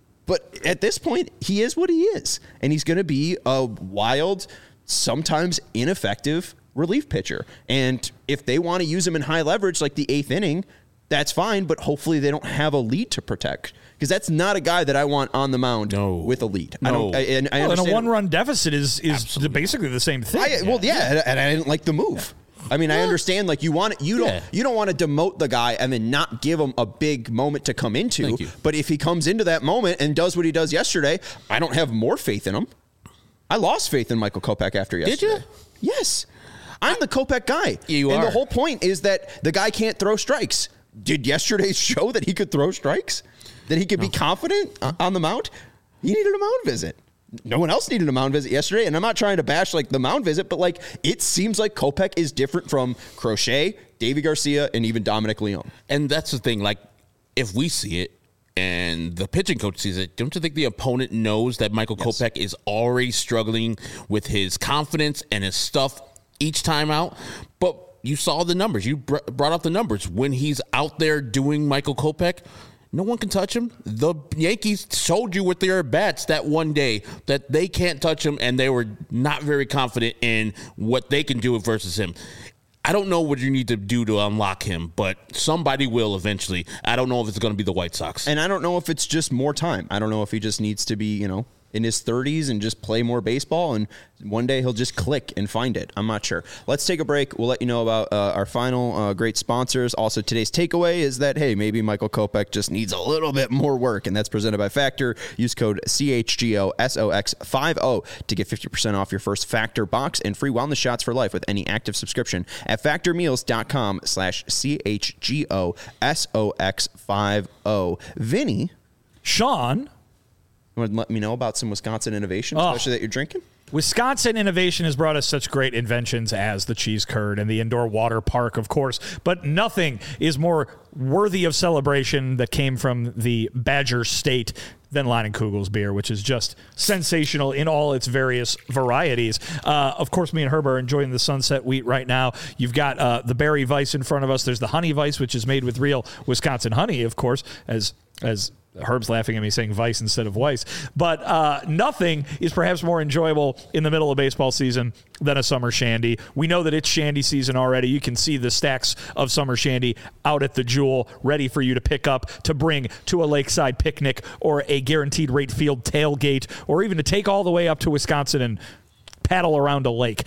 But at this point, he is what he is, and he's going to be a wild, sometimes ineffective relief pitcher. And if they want to use him in high leverage like the eighth inning, that's fine, but hopefully they don't have a lead to protect, because that's not a guy that I want on the mound no. with a lead. No. I don't. I, and I well, and a one-run deficit is is Absolutely. basically the same thing. I, well, yeah, yeah, and I didn't like the move. I mean, I understand, like, you want you don't yeah. you don't want to demote the guy and then not give him a big moment to come into. But if he comes into that moment and does what he does yesterday, I don't have more faith in him. I lost faith in Michael Kopech after yesterday. Did you? Yes. I'm the Kopech guy. You and are. The whole point is that the guy can't throw strikes. Did yesterday show that he could throw strikes? That he could no. be confident on the mound? He needed a mound visit. No one else needed a mound visit yesterday, and I'm not trying to bash like the mound visit, but like it seems like Kopech is different from Crochet, Davy Garcia, and even Dominic Leone. And that's the thing, like, if we see it and the pitching coach sees it, don't you think the opponent knows that Michael yes. Kopech is already struggling with his confidence and his stuff each time out? But you saw the numbers. You br- brought up the numbers. When he's out there doing Michael Kopech, No one can touch him. The Yankees showed you with their bats that one day that they can't touch him, and they were not very confident in what they can do versus him. I don't know what you need to do to unlock him, but somebody will eventually. I don't know if it's going to be the White Sox. And I don't know if it's just more time. I don't know if he just needs to be, you know, in his thirties and just play more baseball, and one day he'll just click and find it. I'm not sure. Let's take a break. We'll let you know about uh, our final uh, great sponsors. Also, today's takeaway is that, hey, maybe Michael Kopech just needs a little bit more work, and that's presented by Factor. Use code C H G O S O X fifty to get fifty percent off your first Factor box and free wellness shots for life with any active subscription at factormeals.com slash C-H-G-O-S-O-X-50. Vinny. Sean. You want to let me know about some Wisconsin innovation, Oh. especially that you're drinking? Wisconsin innovation has brought us such great inventions as the cheese curd and the indoor water park, of course, but nothing is more worthy of celebration that came from the Badger State than Leinenkugel's beer, which is just sensational in all its various varieties. Uh, of course, me and Herb are enjoying the Sunset Wheat right now. You've got uh, the Berry Weiss in front of us. There's the Honey Weiss, which is made with real Wisconsin honey, of course, as as Herb's laughing at me saying Vice instead of Weiss. But uh, nothing is perhaps more enjoyable in the middle of baseball season than a summer shandy. We know that it's shandy season already. You can see the stacks of summer shandy out at the Jewel, ready for you to pick up, to bring to a lakeside picnic or a guaranteed rate field tailgate, or even to take all the way up to Wisconsin and paddle around a lake.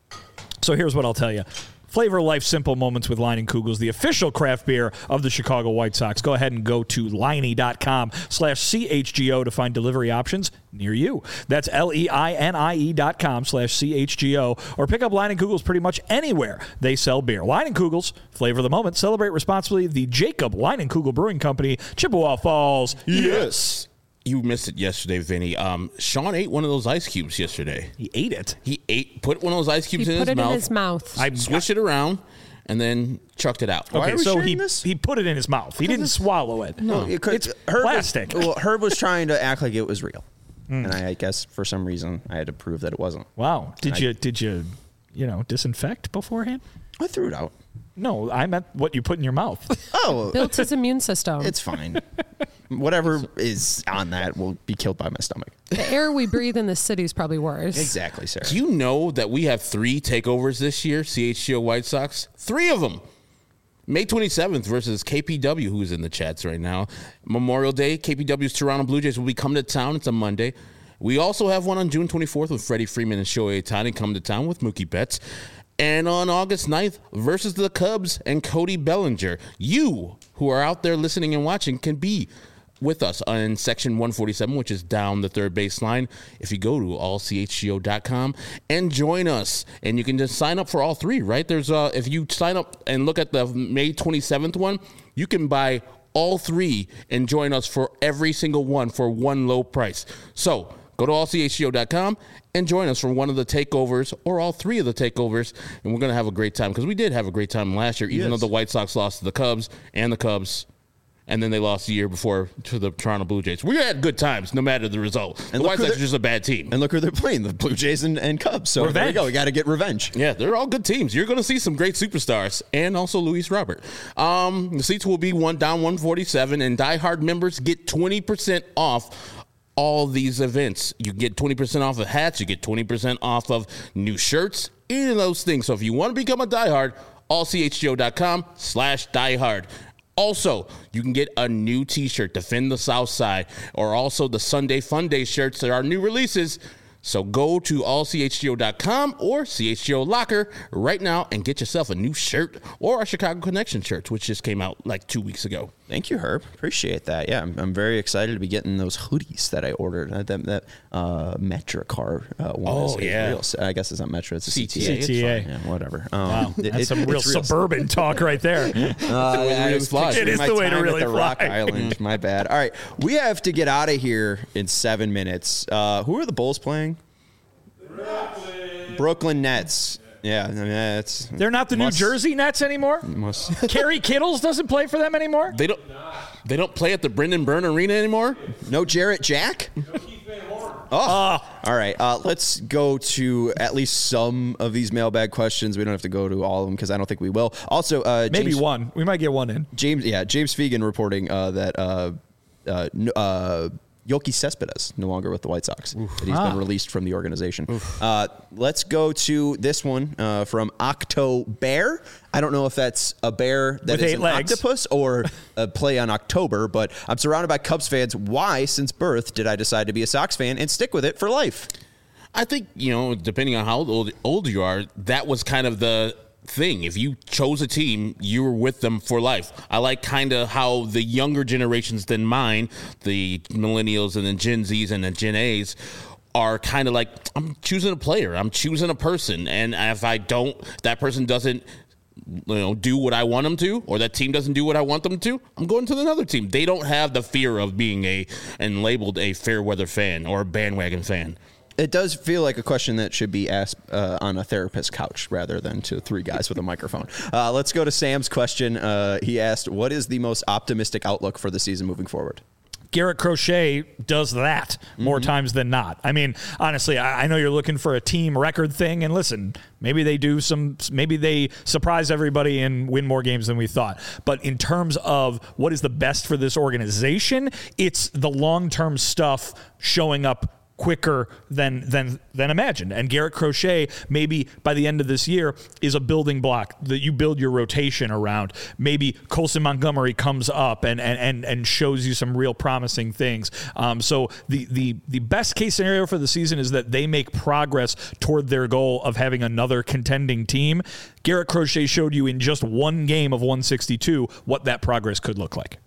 So here's what I'll tell you. Flavor life simple moments with Leinenkugel's, the official craft beer of the Chicago White Sox. Go ahead and go to Leinie.com slash C-H-G-O to find delivery options near you. That's L-E-I-N-I-E dot com slash C-H-G-O, or pick up Leinenkugel's pretty much anywhere they sell beer. Leinenkugel's, flavor the moment. Celebrate responsibly. The Jacob Leinenkugel Brewing Company, Chippewa Falls. Yes. You missed it yesterday, Vinny. Um, Sean ate one of those ice cubes yesterday. He ate it. He ate, put one of those ice cubes He in put his it mouth. in his mouth. I Swish it around, and then chucked it out. Why Okay, are we so sharing he this? he put it in his mouth. He didn't swallow it. No, it could- it's Herb plastic. Was, well, Herb was trying to act like it was real, and I, I guess for some reason I had to prove that it wasn't. Wow. Did I- you did you you know disinfect beforehand? I threw it out. No, I meant what you put in your mouth. Oh, Built his immune system. it's fine. Whatever is on that will be killed by my stomach. The air we breathe in the city is probably worse. Exactly, Sarah. Do you know that we have three takeovers this year, C H G O White Sox? Three of them. May twenty-seventh versus K P W, who's in the chats right now. Memorial Day, K P W's Toronto Blue Jays will be coming to town. It's a Monday. We also have one on June twenty-fourth with Freddie Freeman and Shohei Ohtani coming to town with Mookie Betts. And on August ninth versus the Cubs and Cody Bellinger. You, who are out there listening and watching, can be with us on section one forty-seven, which is down the third baseline. If you go to all C H G O dot com and join us, and you can just sign up for all three, right? There's uh, if you sign up and look at the May twenty-seventh one, you can buy all three and join us for every single one for one low price. So go to all C H G O dot com and join us for one of the takeovers or all three of the takeovers, and we're going to have a great time because we did have a great time last year, even Yes. though the White Sox lost to the Cubs and the Cubs. And then they lost the year before to the Toronto Blue Jays. We had good times, no matter the result. And the look White who Sox are they're- just a bad team. And look who they're playing, the Blue Jays and, and Cubs. So there we Revenge. go. We got to get revenge. Yeah, they're all good teams. You're going to see some great superstars, and also Luis Robert. Um, the seats will be one down one forty-seven, and diehard members get twenty percent off all these events. You get twenty percent off of hats. You get twenty percent off of new shirts, any of those things. So if you want to become a diehard, all C H G O dot com slash diehard. Also, you can get a new t-shirt, Defend the South Side, or also the Sunday Fun Day shirts. There are new releases. So go to all C H G O dot com or C H G O Locker right now and get yourself a new shirt or our Chicago Connection shirts, which just came out like two weeks ago. Thank you, Herb. Appreciate that. Yeah, I'm, I'm very excited to be getting those hoodies that I ordered. Uh, that that uh, Metra car uh, one. Oh, is, is yeah. real, I guess it's not Metra. It's a C C T T A. A. C T A. Yeah, whatever. Um, Wow, it- that's it- some real it's real suburban talk right there. Uh, way to I really was fly. picturing It is my the way to time really at the Rock fly. Island. My bad. All right, we have to get out of here in seven minutes. Uh, who are the Bulls playing? Brooklyn, Brooklyn Nets. Yeah, I mean, that's They're not the must- New Jersey Nets anymore? must- Kerry Kittles doesn't play for them anymore? They don't. They don't play at the Brendan Byrne Arena anymore. no Jarrett Jack. No Keith Van Horn. Oh, all right. Uh, let's go to at least some of these mailbag questions. We don't have to go to all of them because I don't think we will. Also, uh, maybe James, one. We might get one in. James, yeah, James Fegan reporting uh, that uh, uh, uh, Yoki Cespedes no longer with the White Sox. That he's Ah. been released from the organization. Uh, let's go to this one uh, from Octo Bear. I don't know if that's a bear that With is eight an legs. octopus or a play on October, but I'm surrounded by Cubs fans. Why, since birth, did I decide to be a Sox fan and stick with it for life? I think, you know, depending on how old, old you are, that was kind of the thing. If you chose a team, you were with them for life. I like kind of how the younger generations than mine, the millennials and the Gen Zs and the Gen A's, are kind of like, I'm choosing a player. I'm choosing a person. And if I don't, that person doesn't, you know, do what I want them to, or that team doesn't do what I want them to, I'm going to another team. They don't have the fear of being a, and labeled a fair weather fan or a bandwagon fan. It does feel like a question that should be asked uh, on a therapist's couch rather than to three guys with a microphone. Uh, let's go to Sam's question. Uh, he asked, what is the most optimistic outlook for the season moving forward? Garrett Crochet does that more Mm-hmm. times than not. I mean, honestly, I, I know you're looking for a team record thing, and listen, maybe they do some, maybe they surprise everybody and win more games than we thought. But in terms of what is the best for this organization, it's the long-term stuff showing up quicker than than than imagined. And Garrett Crochet, maybe by the end of this year, is a building block that you build your rotation around. Maybe Colson Montgomery comes up and and and, and shows you some real promising things. Um, so the the the best case scenario for the season is that they make progress toward their goal of having another contending team. Garrett Crochet showed you in just one game of one sixty-two what that progress could look like.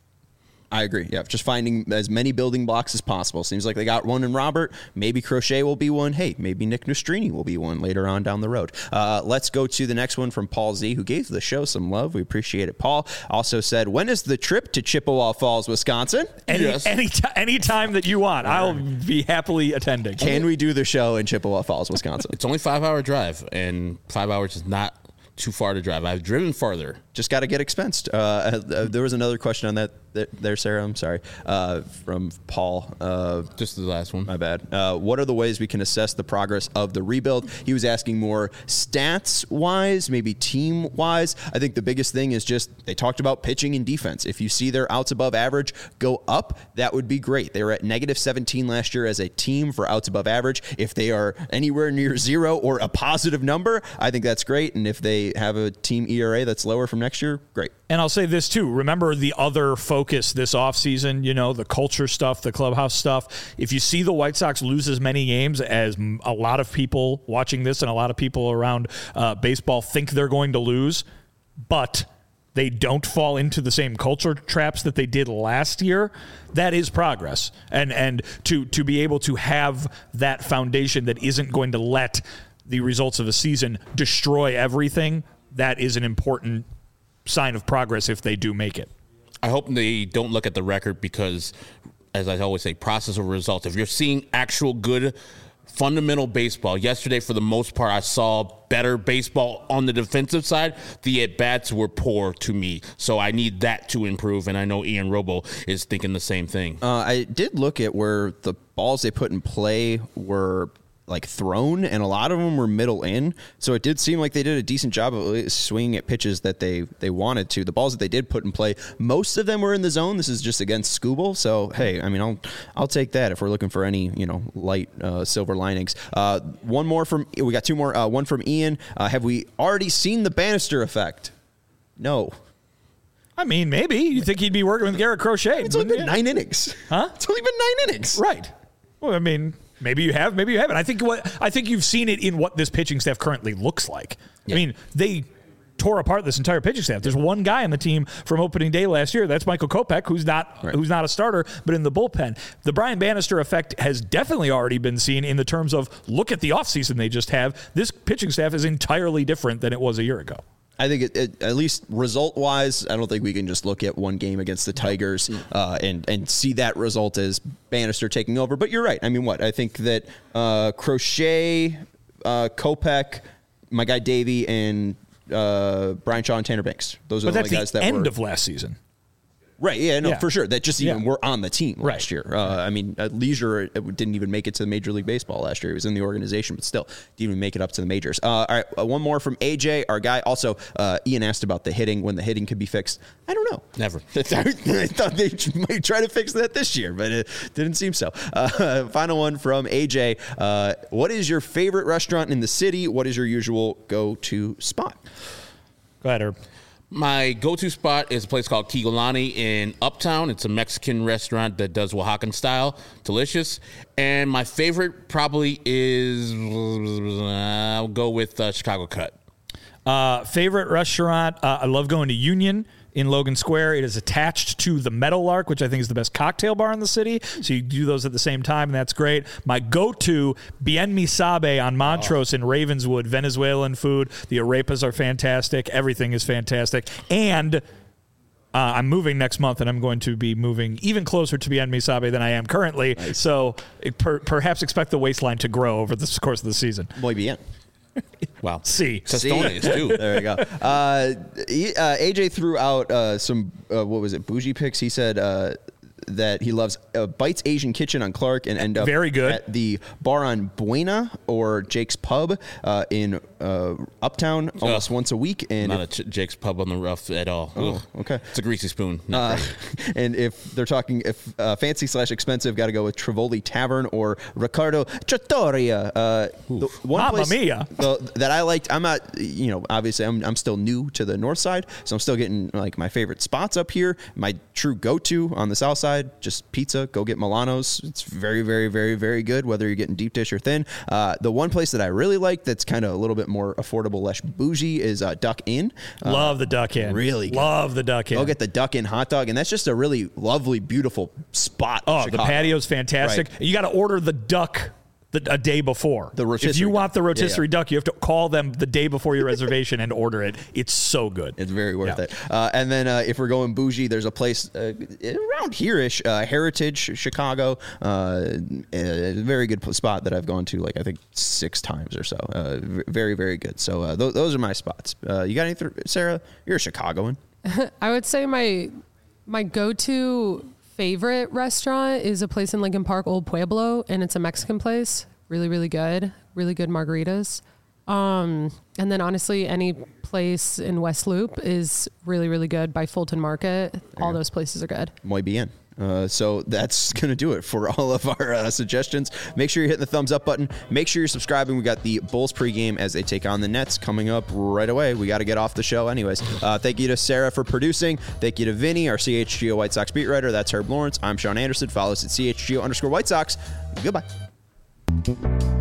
I agree. Yeah, just finding as many building blocks as possible. Seems like they got one in Robert. Maybe Crochet will be one. Hey, maybe Nick Nastrini will be one later on down the road. Uh, let's go to the next one from Paul Z, who gave the show some love. We appreciate it. Paul also said, when is the trip to Chippewa Falls, Wisconsin? Any Yes. any t- any time that you want, I'll be happily attending. Can we do the show in Chippewa Falls, Wisconsin? It's only five hour drive, and five hours is not too far to drive. I've driven farther. Just got to get expensed. Uh, uh, there was another question on that there, Sarah. I'm sorry. Uh, from Paul. Uh, Just the last one. My bad. Uh, what are the ways we can assess the progress of the rebuild? He was asking more stats wise, maybe team wise. I think the biggest thing is just they talked about pitching and defense. If you see their outs above average go up, that would be great. They were at negative seventeen last year as a team for outs above average. If they are anywhere near zero or a positive number, I think that's great. And if they have a team E R A that's lower from next year, great. And I'll say this too. Remember the other focus this offseason, you know, the culture stuff, the clubhouse stuff. If you see the White Sox lose as many games as a lot of people watching this and a lot of people around uh, baseball think they're going to lose, but they don't fall into the same culture traps that they did last year, that is progress. And and to to be able to have that foundation that isn't going to let the results of a season destroy everything, that is an important sign of progress if they do make it. I hope they don't look at the record because, as I always say, process over results. If you're seeing actual good fundamental baseball, yesterday for the most part I saw better baseball on the defensive side. The at-bats were poor to me, so I need that to improve, and I know Ian Robo is thinking the same thing. Uh, I did look at where the balls they put in play were like thrown, and a lot of them were middle in. So it did seem like they did a decent job of swinging at pitches that they they wanted to. The balls that they did put in play, most of them were in the zone. This is just against Skubal. So hey, I mean, I'll I'll take that if we're looking for any you know light uh, silver linings. Uh, one more from we got two more. Uh, one from Ian. Uh, have we already seen the Bannister effect? No. I mean, maybe. You think he'd be working with Garrett Crochet. It's only been you? nine innings. Huh? It's only been nine innings. Right. Well, I mean, maybe you have, maybe you haven't. I think what I think you've seen it in what this pitching staff currently looks like. Yeah. I mean, they tore apart this entire pitching staff. There's one guy on the team from opening day last year. That's Michael Kopech, who's not right. who's not a starter, but in the bullpen. The Brian Bannister effect has definitely already been seen in the terms of look at the offseason they just have. This pitching staff is entirely different than it was a year ago. I think it, it, at least result-wise, I don't think we can just look at one game against the Tigers uh, and and see that result as Bannister taking over. But you're right. I mean, what? I think that uh, Crochet, uh, Kopech, my guy Davey, and uh, Brian Shaw and Tanner Banks. Those are But the that's only guys the that end were. of last season. Right, yeah, no, Yeah. for sure. That just even Yeah. were on the team Right. last year. Uh, I mean, uh, Leisure it didn't even make it to the Major League Baseball last year. He was in the organization, but still didn't even make it up to the majors. Uh, all right, uh, one more from A J, our guy. Also, uh, Ian asked about the hitting, when the hitting could be fixed. I don't know. Never. I thought they might try to fix that this year, but it didn't seem so. Uh, final one from A J. Uh, what is your favorite restaurant in the city? What is your usual go-to spot? Go ahead, Herb. My go-to spot is a place called Kigolani in Uptown. It's a Mexican restaurant that does Oaxacan style. Delicious. And my favorite probably is, I'll go with uh, Chicago Cut. Uh, favorite restaurant? Uh, I love going to Union in Logan Square. It is attached to the Meadowlark, which I think is the best cocktail bar in the city. So you do those at the same time, and that's great. My go-to, Bien Mi Sabe on Montrose oh. in Ravenswood, Venezuelan food. The arepas are fantastic. Everything is fantastic. And uh, I'm moving next month, and I'm going to be moving even closer to Bien Mi Sabe than I am currently. Nice. So per- perhaps expect the waistline to grow over the course of the season. Muy bien. Wow. See. Tostones, too. There we go. Uh, he, uh, A J threw out uh, some, uh, what was it, bougie picks. He said uh, that he loves uh, Bites Asian Kitchen on Clark and end up Very good. at the bar on Buena or Jake's Pub uh, in uh, Uptown almost Ugh. once a week. And Not if, a Ch- Jake's Pub on the rough at all. Oh, Ugh. okay. It's a greasy spoon. Not Uh, great. and if they're talking, if uh, fancy slash expensive, got to go with Trivoli Tavern or Riccardo Trattoria. Uh, the one Mamma place mia. the, that I liked. I'm not, you know, obviously I'm I'm still new to the north side, so I'm still getting like my favorite spots up here. My true go-to on the south side, just pizza. Go get Milano's. It's very, very, very, very good. Whether you're getting deep dish or thin. Uh, the one place that I really like that's kind of a little bit more affordable, less bougie, is uh, Duck Inn. Uh, Love the Duck Inn. Really good. Love the Duck Inn. Go get the Duck Inn hot dog, and that's just a really lovely, beautiful spot. Oh, in the Chicago. patio's fantastic. Right. You got to order the duck the, a day before. The rotisserie if you want the duck. rotisserie Yeah, yeah. duck, you have to call them the day before your reservation and order it. It's so good. It's very worth Yeah. it. Uh, and then uh, if we're going bougie, there's a place uh, around here-ish, uh, Heritage, Chicago. Uh, a very good spot that I've gone to, like, I think six times or so. Uh, v- very, very good. So uh, th- those are my spots. Uh, you got anything, Sarah? You're a Chicagoan. I would say my my go-to favorite restaurant is a place in Lincoln Park, Old Pueblo, and it's a Mexican place. Really, really good. Really good margaritas. Um, and then honestly, any place in West Loop is really, really good. By Fulton Market, all those places are good. Muy bien. Uh, so that's going to do it for all of our uh, suggestions. Make sure you're hitting the thumbs up button. Make sure you're subscribing. We got the Bulls pregame as they take on the Nets coming up right away. We got to get off the show anyways. Uh, thank you to Sarah for producing. Thank you to Vinny, our C H G O White Sox beat writer. That's Herb Lawrence. I'm Sean Anderson. Follow us at C H G O underscore White Sox. Goodbye.